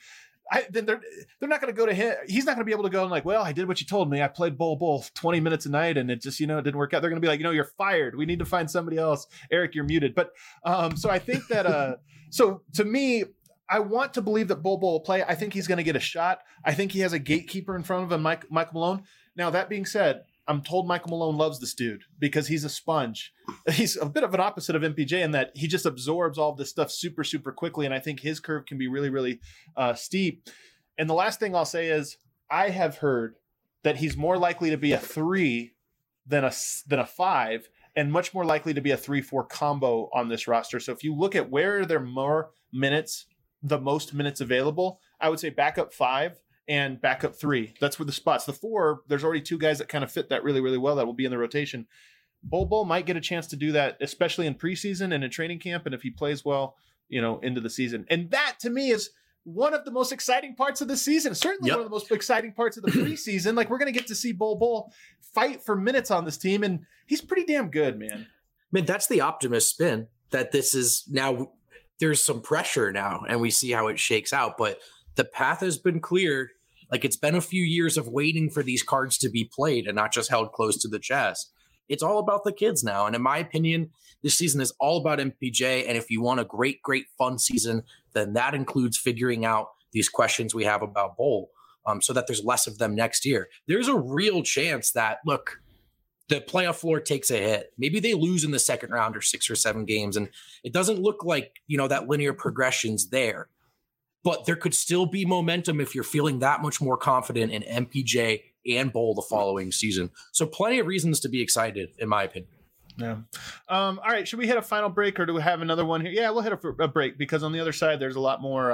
then they're not going to go to him. He's not going to be able to go and like, well, I did what you told me. I played Bull 20 minutes a night and it just, it didn't work out. They're going to be like, you're fired. We need to find somebody else. Eric, you're muted. But so I think that, so to me, I want to believe that Bull will play. I think he's going to get a shot. I think he has a gatekeeper in front of him, Michael Malone. Now, that being said, I'm told Michael Malone loves this dude because he's a sponge. He's a bit of an opposite of MPJ in that he just absorbs all of this stuff super, super quickly. And I think his curve can be really, really steep. And the last thing I'll say is I have heard that he's more likely to be a 3 than a 5 and much more likely to be a 3-4 combo on this roster. So if you look at where there are more minutes, the most minutes available, I would say backup 5 and backup 3. That's where the spots. The 4, there's already 2 guys that kind of fit that really, really well that will be in the rotation. Bull might get a chance to do that, especially in preseason and in training camp. And if he plays well, into the season. And that to me is one of the most exciting parts of the season. Certainly one of the most exciting parts of the preseason. Like we're going to get to see Bull fight for minutes on this team. And he's pretty damn good, man. Man, that's the optimist spin that this is now. There's some pressure now and we see how it shakes out, but the path has been cleared. Like it's been a few years of waiting for these cards to be played and not just held close to the chest. It's all about the kids now. And in my opinion, this season is all about MPJ. And if you want a great, great fun season, then that includes figuring out these questions we have about Bull so that there's less of them next year. There's a real chance that, look, the playoff floor takes a hit. Maybe they lose in the second round or 6 or 7 games. And it doesn't look like, that linear progression's there. But there could still be momentum if you're feeling that much more confident in MPJ and Bull the following season. So plenty of reasons to be excited, in my opinion. Yeah. All right. Should we hit a final break or do we have another one here? Yeah, we'll hit a break because on the other side, there's a lot more,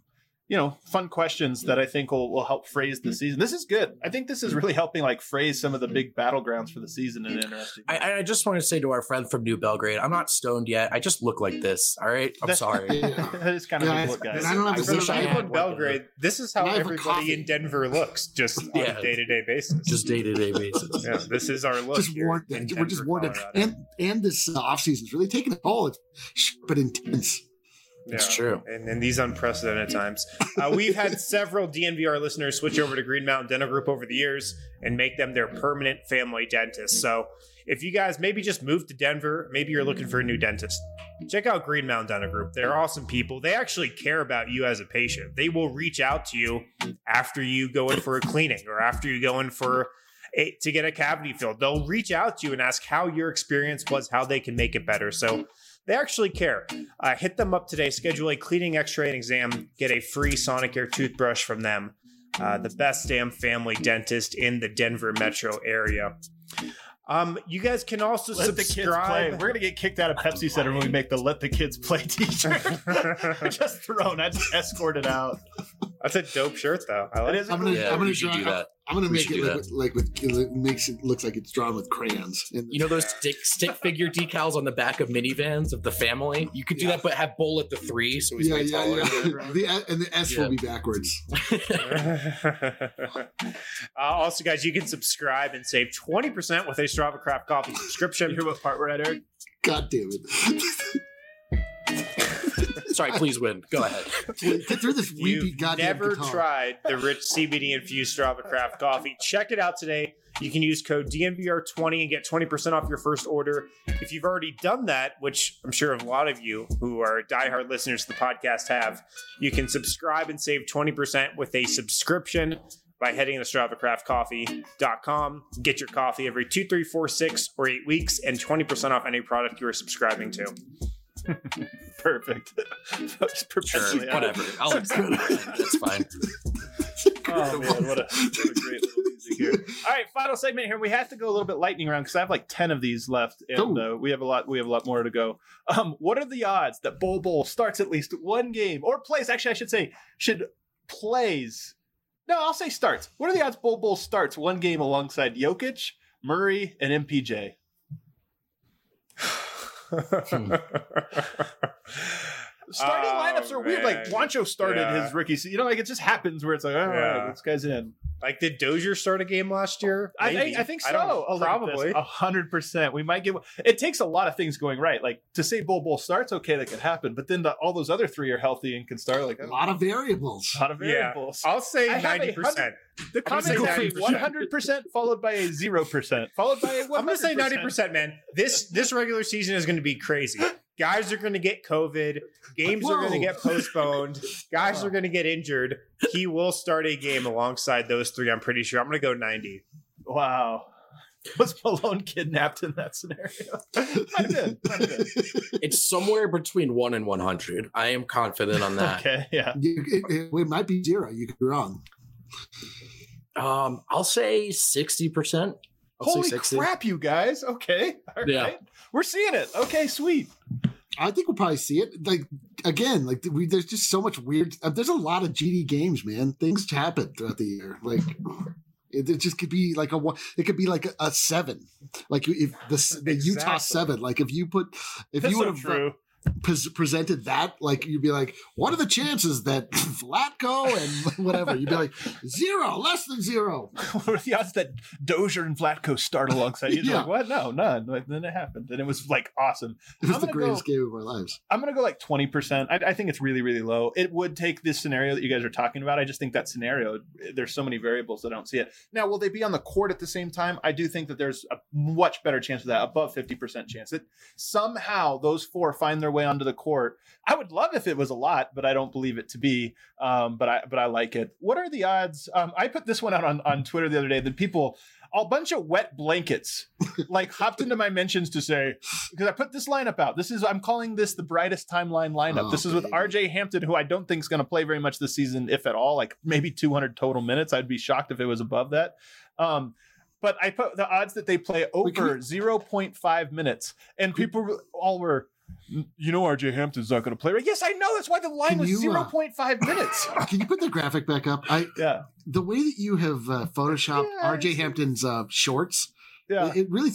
fun questions that I think will help phrase the season. This is good. I think this is really helping phrase some of the big battlegrounds for the season in an interesting way. I just want to say to our friend from New Belgrade, I'm not stoned yet. I just look like this. All right. I'm sorry. That is kind of a look, guys. I don't have for Belgrade, this is how everybody in Denver looks just on a day-to-day basis. Just day-to-day basis. Yeah, this is our look. We're just warned. And this offseason is really taking a toll. It's sharp but intense. It's true. And in these unprecedented times, we've had several DNVR listeners switch over to Green Mountain Dental Group over the years and make them their permanent family dentist. So if you guys maybe just moved to Denver, maybe you're looking for a new dentist, check out Green Mountain Dental Group. They're awesome people. They actually care about you as a patient. They will reach out to you after you go in for a cleaning or after you go in to get a cavity filled. They'll reach out to you and ask how your experience was, how they can make it better. So they actually care. Hit them up today. Schedule a cleaning, x-ray, and exam. Get a free Sonicare toothbrush from them. The best damn family dentist in the Denver metro area. You guys can also subscribe. We're going to get kicked out of Pepsi Center when we make the Let the Kids Play t-shirt. Just thrown. I just escorted out. That's a dope shirt, though. I like it. I'm gonna do that. I'm gonna make it makes it looks like it's drawn with crayons. Those stick figure decals on the back of minivans of the family. You could do that, but have Bull at the 3, so he's way taller. The S will be backwards. Also, guys, you can subscribe and save 20% with a Strava Craft Coffee subscription. You hear what part we're at, Eric? God damn it. Sorry, please win. Go ahead. Get through this weepy goddamn never guitar. tried the rich CBD infused Strava Craft coffee. Check it out today. You can use code DNVR20 and get 20% off your first order. If you've already done that, which I'm sure a lot of you who are diehard listeners to the podcast have, you can subscribe and save 20% with a subscription by heading to StravaCraftCoffee.com. Get your coffee every 2, 3, 4, 6, or 8 weeks and 20% off any product you are subscribing to. Perfect. Sure, whatever. I'll accept it. That's fine. Oh man, what a great little music here. All right, final segment here. We have to go a little bit lightning round because I have 10 of these left, and we have a lot more to go. What are the odds that Bull starts at least one game or plays? Actually, I should say plays. No, I'll say starts. What are the odds Bull starts one game alongside Jokic, Murray, and MPJ? Starting lineups are weird. Like Juancho started his rookie season. You know, like it just happens where it's like, all right, this guy's in. Like, did Dozier start a game last year? I think so. Probably 100%. We might get. It takes a lot of things going right. Like to say Bull starts, okay, that could happen. But then all those other three are healthy and can start. Like a lot of variables. A lot of variables. Yeah. I'll say 90%. The comment will be 100% followed by a 0%, followed by a 100%. I'm going to say 90%, man. This regular season is going to be crazy. Guys are going to get COVID. Games are going to get postponed. Guys are going to get injured. He will start a game alongside those three, I'm pretty sure. I'm going to go 90. Wow. Was Malone kidnapped in that scenario? Might have been. It's somewhere between 1 and 100. I am confident on that. Okay, yeah. It might be 0. You could be wrong. I'll say 60%. Holy crap, you guys. Okay. All right. Yeah. We're seeing it. Okay, sweet. I think we'll probably see it. Like, again, like there's just so much weird. There's a lot of GD games, man. Things happen throughout the year. Like, it just could be like it could be like a 7. Like if the Utah 7, like if you would have presented that, like you'd be like, what are the chances that Vlatko and whatever? You'd be like 0, less than 0. What are the odds that Dozier and Vlatko start alongside you? Like, what? No, none. But then it happened, and it was like awesome. It was the greatest game of our lives. I'm gonna go like 20%. I think it's really, really low. It would take this scenario that you guys are talking about. I just think that scenario, there's so many variables that I don't see it. Now, will they be on the court at the same time? I do think that there's a much better chance of that, above 50% chance that somehow those 4 find their way onto the court. I would love if it was a lot, but I don't believe it to be. But I like it. What are the odds? I put this one out on Twitter the other day that people, a bunch of wet blankets, like hopped into my mentions to say, because I put this lineup out. I'm calling this the brightest timeline lineup. This is with RJ Hampton, who I don't think is going to play very much this season, if at all, like maybe 200 total minutes. I'd be shocked if it was above that. But I put the odds that they play over 0.5 minutes, and people all were, you know, RJ Hampton's not going to play. Yes, I know. That's why the line was 0.5 minutes. Can you put the graphic back up? The way that you have photoshopped RJ Hampton's shorts, it really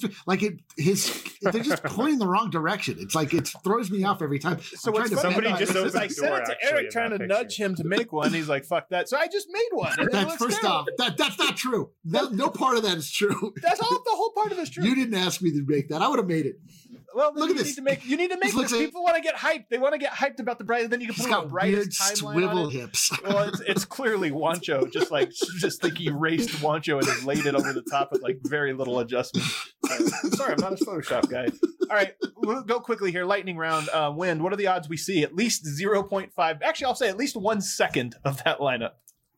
they're just pointing the wrong direction. It's like it throws me off every time. So somebody just opened the door, to Eric trying to nudge him to make one. He's like, "Fuck that!" So I just made one. That's first off. That's not true. No part of that is true. That's all. The whole part of it is true. You didn't ask me to make that. I would have made it. Well, look at this. You need to make this. People want to get hyped. They want to get hyped about the bright. Then you can put the brightest timeline swivel on it. Hips. Well, it's clearly Juancho. Just like he erased Juancho and then laid it over the top with like very little adjustment. Sorry, I'm not a Photoshop guy. All right, we'll go quickly here. Lightning round. Wind. What are the odds we see at least 0.5? Actually, I'll say at least 1 second of that lineup.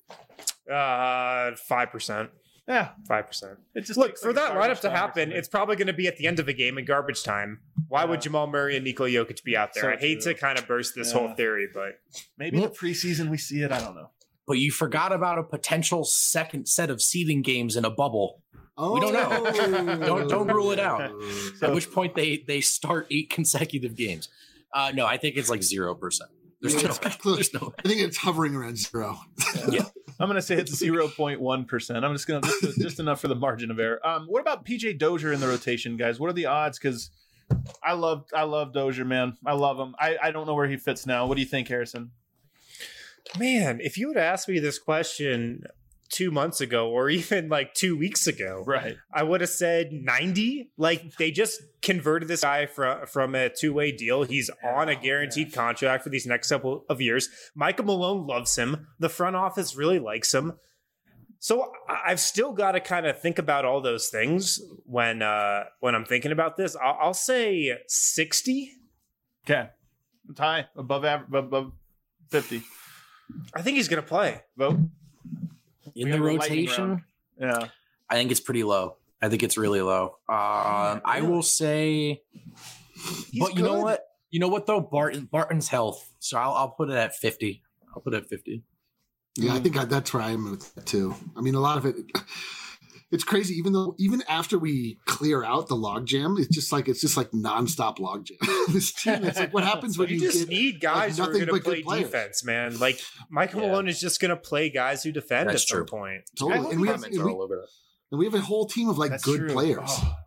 5%. Yeah, 5%. It just look for that lineup to happen. It's probably going to be at the end of a game in garbage time. Why would Jamal Murray and Nikola Jokic be out there? I hate to kind of burst this whole theory, but maybe the preseason we see it. I don't know. But you forgot about a potential second set of seeding games in a bubble. We don't know. don't rule it out. At which point they start 8 consecutive games. No, I think it's like 0%. There's no way. I think it's hovering around 0. Yeah. I'm going to say it's 0.1%. I'm just going to just enough for the margin of error. What about PJ Dozier in the rotation, guys? What are the odds? Because I love Dozier, man. I love him. I don't know where he fits now. What do you think, Harrison? Man, if you would ask me this question 2 months ago or even like 2 weeks ago, right, I would have said 90. Like they just converted this guy from a 2-way deal. He's on a guaranteed contract for these next couple of years. Michael Malone loves him. The front office really likes him. So I've still got to kind of think about all those things when I'm thinking about this. I'll say 60. Okay, it's high, above 50. I think he's going to play. Vote. In the rotation, yeah, I think it's pretty low. I think it's really low. I will say, but you know what? You know what though? Barton's health. So I'll put it at 50. I'll put it at 50. Yeah, I think that's where I am with that too. I mean, a lot of it. It's crazy. Even after we clear out the logjam, it's just like nonstop logjam. This team, it's like what happens when you just need guys who are going to play defense, man. Like Michael Malone is just going to play guys who defend at some point. Totally, and we have a whole team of like good players.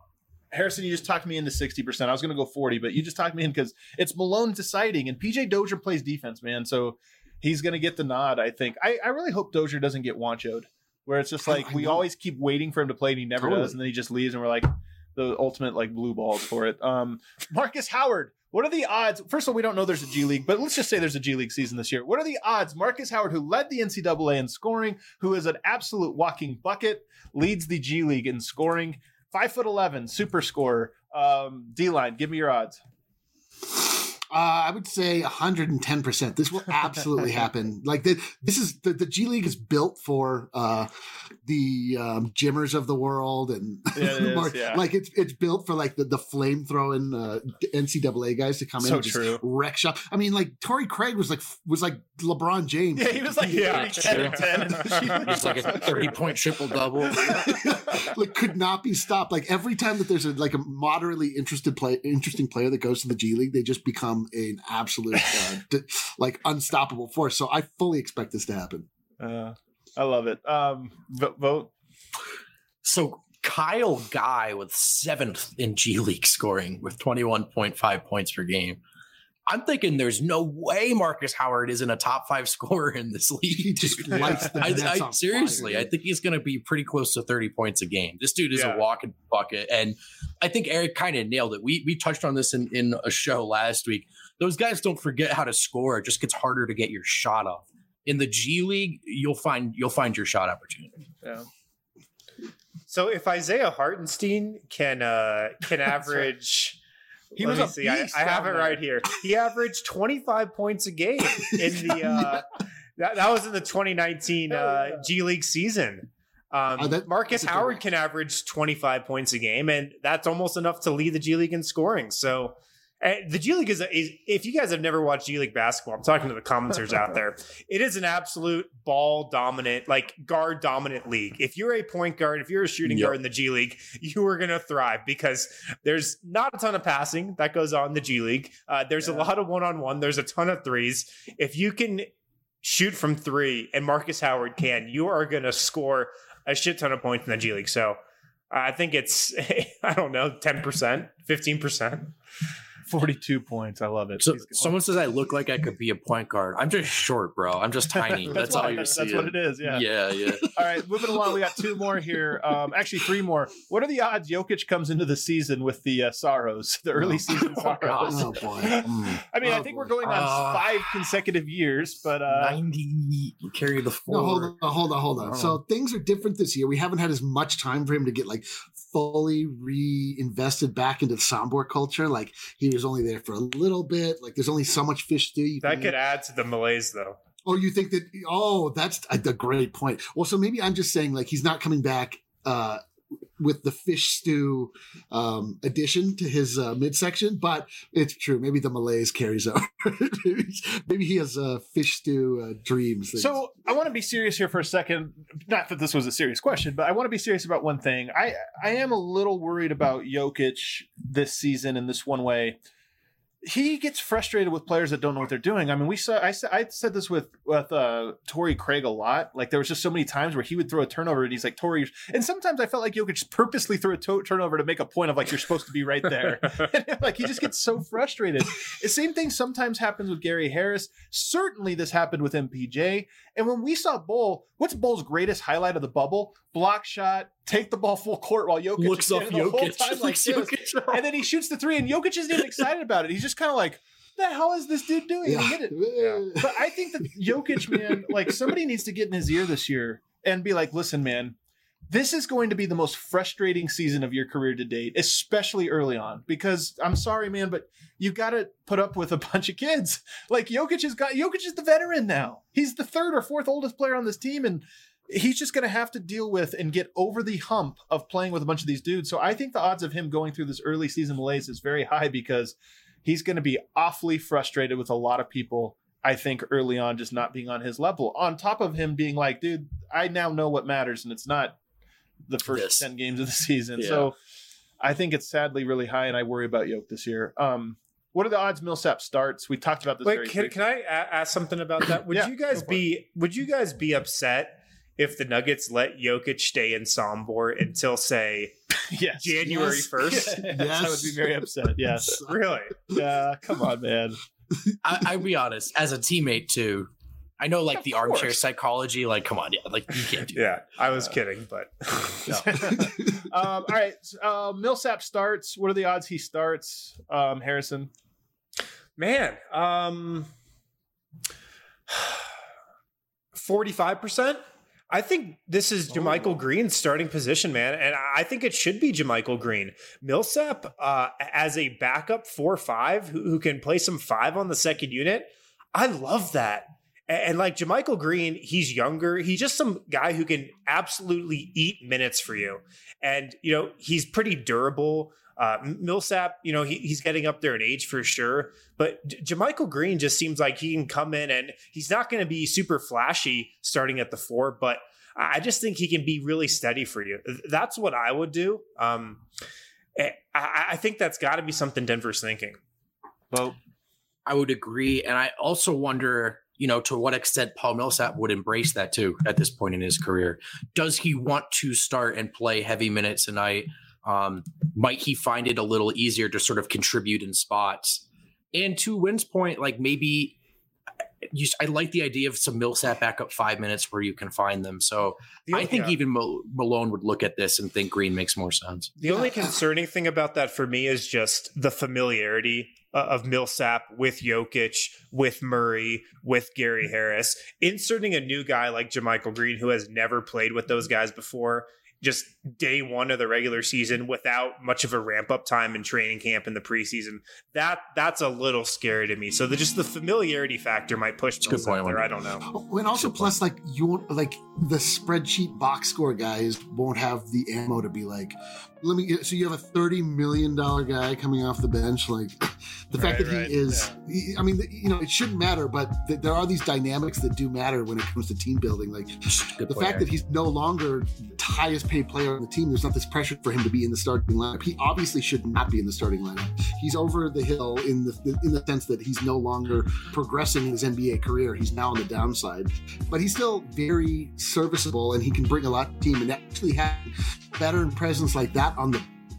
Harrison, you just talked me into 60%. I was going to go 40, but you just talked me in because it's Malone deciding, and PJ Dozier plays defense, man. So he's going to get the nod, I think. I really hope Dozier doesn't get wanchoed, where it's just like we always keep waiting for him to play, and he never does, and then he just leaves, and we're like the ultimate like blue balls for it. Marcus Howard, what are the odds? First of all, we don't know there's a G League, but let's just say there's a G League season this year. What are the odds Marcus Howard, who led the NCAA in scoring, who is an absolute walking bucket, leads the G League in scoring? 5'11", super scorer. D-line, give me your odds. I would say 110%. This will absolutely happen. Like this is the G League is built for the gymmers of the world, and like it's built for like the flame throwing NCAA guys to come in and just wreck shop. I mean, like Torrey Craig was like LeBron James. Yeah, he was like 10-10. It's like a 30-point triple double. Like could not be stopped. Like every time that there's a moderately interesting player that goes to the G League, they just become an absolute like unstoppable force. So I fully expect this to happen. I love it. Vote. So Kyle Guy with 7th in G League scoring with 21.5 points per game. I'm thinking there's no way Marcus Howard isn't a top 5 scorer in this league. He just lights the nets on seriously, fire. I think he's going to be pretty close to 30 points a game. This dude is a walking bucket. And I think Eric kind of nailed it. We touched on this in a show last week. Those guys don't forget how to score. It just gets harder to get your shot off. In the G League, you'll find your shot opportunity. Yeah. So if Isaiah Hartenstein can average... He was a beast. I have it right here. He averaged 25 points a game in the that was in the 2019 G League season. Marcus Howard can average 25 points a game, and that's almost enough to lead the G League in scoring. So the G League is if you guys have never watched G League basketball, I'm talking to the commenters out there. It is an absolute ball dominant, like guard dominant league. If you're a point guard, if you're a shooting guard in the G League, you are going to thrive because there's not a ton of passing that goes on in the G League. There's a lot of one-on-one. There's a ton of threes. If you can shoot from 3 and Marcus Howard can, you are going to score a shit ton of points in the G League. So I think it's, I don't know, 10%, 15%. 42 points. I love it. So someone says I look like I could be a point guard. I'm just short, bro. I'm just tiny. That's all you're seeing. That's what it is. Yeah. Yeah. All right, moving along. We got 2 more here. Actually, 3 more. What are the odds Jokic comes into the season with the sorrows, the early season sorrows? Oh boy. I mean, I think we're going on 5 consecutive years, but 90 carry the 4. No, hold on. So things are different this year. We haven't had as much time for him to get like fully reinvested back into the soundboard culture. Like he was only there for a little bit. Like there's only so much fish stew. That could add to the malaise though. Oh, you think that? Oh, that's a great point. Well, so maybe I'm just saying like he's not coming back with the fish stew addition to his midsection, but it's true. Maybe the malaise carries over. maybe he has fish stew dreams. So I want to be serious here for a second. Not that this was a serious question, but I want to be serious about one thing. I am a little worried about Jokic this season in this one way. He gets frustrated with players that don't know what they're doing. I mean, I said this with Torrey Craig a lot. Like there was just so many times where he would throw a turnover and he's like, Torrey, and sometimes I felt like Jokic purposely threw a turnover to make a point of like, you're supposed to be right there. And like, he just gets so frustrated. The same thing sometimes happens with Gary Harris. Certainly this happened with MPJ. And when we saw Bull, what's Bull's greatest highlight of the bubble? Block shot, take the ball full court while Jokic looks off Jokic. And then he shoots the 3 and Jokic isn't even excited about it. He's just kind of like, what the hell is this dude doing? Yeah. But I think that Jokic, man, like somebody needs to get in his ear this year and be like, listen, man, this is going to be the most frustrating season of your career to date, especially early on, because I'm sorry, man, but you got to put up with a bunch of kids. Like Jokic is the veteran now. He's the 3rd or 4th oldest player on this team. And he's just going to have to deal with and get over the hump of playing with a bunch of these dudes. So I think the odds of him going through this early season malaise is very high because he's going to be awfully frustrated with a lot of people, I think, early on, just not being on his level. On top of him being like, dude, I now know what matters, and it's not the first 10 games of the season. Yeah. So I think it's sadly really high, and I worry about Yoke this year. What are the odds Millsap starts? We talked about this. Wait, can I ask something about that? Would you guys be upset if the Nuggets let Jokic stay in Sombor until, say, Yes. January 1st. Yes. I would be very upset. Yes. Really? Yeah. Come on, man. I'll be honest, as a teammate too, I know like Of the armchair course. psychology, like, come on, yeah, like you can't do Yeah, I was kidding, but All right. Millsap starts. What are the odds he starts? Harrison. man, 45%. I think this is JaMychal Green's starting position, man, and I think it should be JaMychal Green. Millsap as a backup 4-5 who can play some 5 on the second unit. I love that. And like JaMychal Green, he's younger. He's just some guy who can absolutely eat minutes for you. And, you know, he's pretty durable. Millsap, you know, he's getting up there in age for sure. But JaMychal Green just seems like he can come in and he's not going to be super flashy starting at the 4, but I just think he can be really steady for you. That's what I would do. I think that's got to be something Denver's thinking. Well, I would agree. And I also wonder, you know, to what extent Paul Millsap would embrace that too at this point in his career. Does he want to start and play heavy minutes tonight? Might he find it a little easier to sort of contribute in spots? And to Wynn's point, like maybe I like the idea of some Millsap backup 5 minutes where you can find them. So I think even Malone would look at this and think Green makes more sense. The only concerning thing about that for me is just the familiarity of Millsap with Jokic, with Murray, with Gary Harris. Inserting a new guy like JaMychal Green who has never played with those guys before, just day one of the regular season without much of a ramp up time in training camp in the preseason, that's a little scary to me. So just the familiarity factor might push Millsap there. I don't know. And also, plus, like you won't like the spreadsheet box score guys won't have the ammo to be like, let me get. So you have a $30 million guy coming off the bench, like the fact that he is. Yeah. I mean, you know, it shouldn't matter, but there are these dynamics that do matter when it comes to team building. Like the fact that he's no longer the highest paid player on the team, there's not this pressure for him to be in the starting lineup. He obviously should not be in the starting lineup. He's over the hill in the sense that he's no longer progressing in his NBA career. He's now on the downside, but he's still very serviceable and he can bring a lot to the team. And actually having veteran presence like that on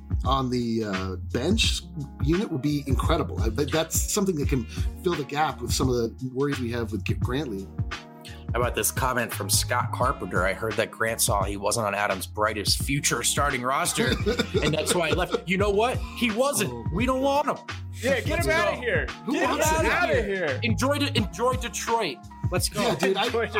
the bench unit would be incredible. That's something that can fill the gap with some of the worries we have with Grantley. How about this comment from Scott Carpenter? I heard that Grant saw he wasn't on Adam's brightest future starting roster, and that's why he left. You know what? He wasn't. We don't want him. Yeah, get him out of here. Who wants him out of here? Enjoy Detroit. Let's go. Yeah, dude.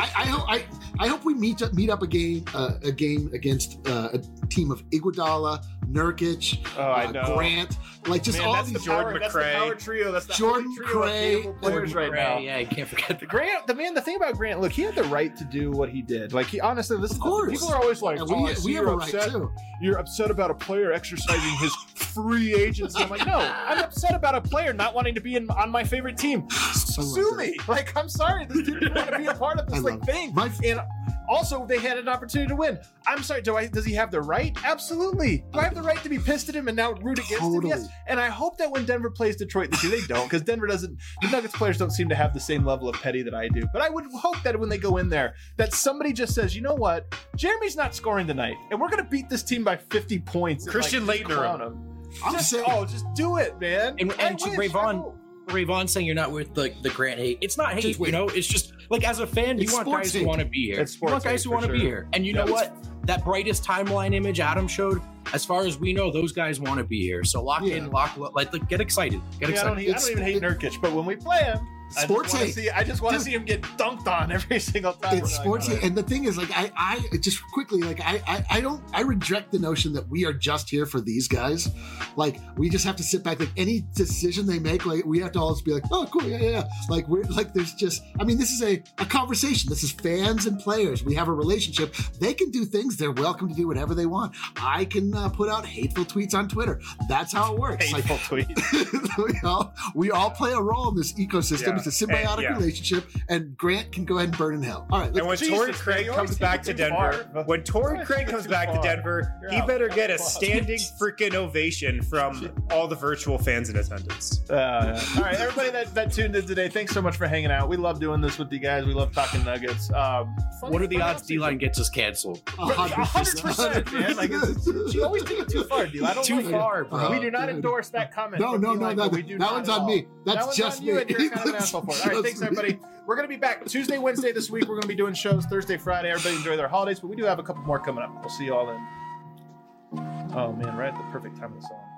I hope we meet up a game against a team of Iguodala, Nurkic, Grant, like just all these Jordan McRae. That's the power trio. That's the Jordan trio of capable players right now. Yeah, you can't forget Grant. The thing about Grant, look, he had the right to do what he did. Like he honestly, people are always like, we have a right too. You're upset about a player exercising his free agency. I'm like, no, I'm upset about a player not wanting to be on my favorite team. Sue me. Like, I'm sorry, this dude didn't want to be a part of this thing. And also, they had an opportunity to win. I'm sorry, does he have the right? Absolutely. Do I have the right to be pissed at him and now root against him? Yes. And I hope that when Denver plays Detroit this year, they don't, because Denver doesn't. The Nuggets players don't seem to have the same level of petty that I do. But I would hope that when they go in there, that somebody just says, you know what, Jeremy's not scoring tonight, and we're going to beat this team by 50 points. Christian Laettner. Just do it, man. And to Rayvon saying you're not with the Grant hate. It's not hate, you know. It's just like as a fan, you want guys who want to be here. You want guys who want to be here. And you know what? That brightest timeline image Adam showed, as far as we know, those guys want to be here. So lock in, like get excited. Get excited. I don't even hate Nurkic, but when we play him, I just want to see him get dunked on every single time. It's sports hate. And the thing is, like, I just quickly, like, I reject the notion that we are just here for these guys. Like, we just have to sit back. Like, any decision they make, like, we have to always be like, oh, cool, yeah. Like, we're like, there's just, I mean, this is a conversation. This is fans and players. We have a relationship. They can do things. They're welcome to do whatever they want. I can put out hateful tweets on Twitter. That's how it works. Hateful tweets. we all play a role in this ecosystem. It's a symbiotic relationship, and Grant can go ahead and burn in hell. All right. And when Torrey Craig comes back to Denver, he better get a standing freaking ovation from all the virtual fans in attendance. All right, everybody that tuned in today, thanks so much for hanging out. We love doing this with you guys. We love talking Nuggets. What are the odds D-Line gets us canceled? 100%, man. Like, she always take it too far, D-Line. Too far, bro. We do not endorse that comment. No, that one's on me. That's just me. And you're kind of an asshole for it. All right, thanks, everybody. We're going to be back Tuesday, Wednesday this week. We're going to be doing shows Thursday, Friday. Everybody enjoy their holidays, but we do have a couple more coming up. We'll see you all then. Oh, man, right at the perfect time of the song.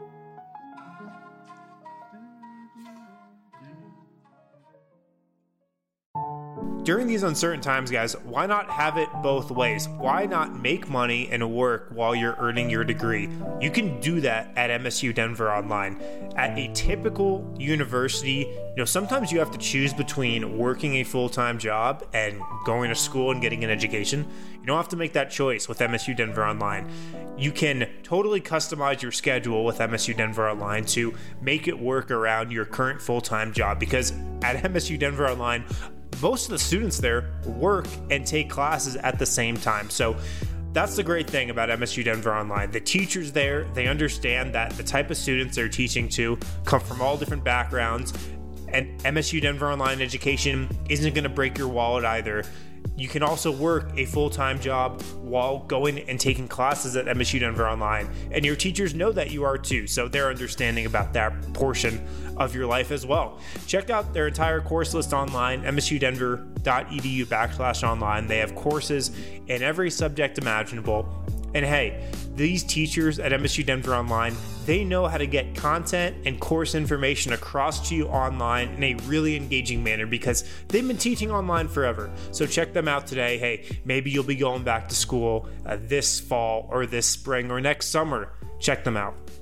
During these uncertain times, guys, why not have it both ways? Why not make money and work while you're earning your degree? You can do that at MSU Denver Online. At a typical university, sometimes you have to choose between working a full-time job and going to school and getting an education. You don't have to make that choice with MSU Denver Online. You can totally customize your schedule with MSU Denver Online to make it work around your current full-time job, because at MSU Denver Online, most of the students there work and take classes at the same time. So that's the great thing about MSU Denver Online. The teachers there, they understand that the type of students they're teaching to come from all different backgrounds, and MSU Denver Online education isn't going to break your wallet either. You can also work a full-time job while going and taking classes at MSU Denver Online. And your teachers know that you are too, so they're understanding about that portion of your life as well. Check out their entire course list online, msudenver.edu/online. They have courses in every subject imaginable. And hey, these teachers at MSU Denver Online, they know how to get content and course information across to you online in a really engaging manner, because they've been teaching online forever. So check them out today. Hey, maybe you'll be going back to school this fall or this spring or next summer. Check them out.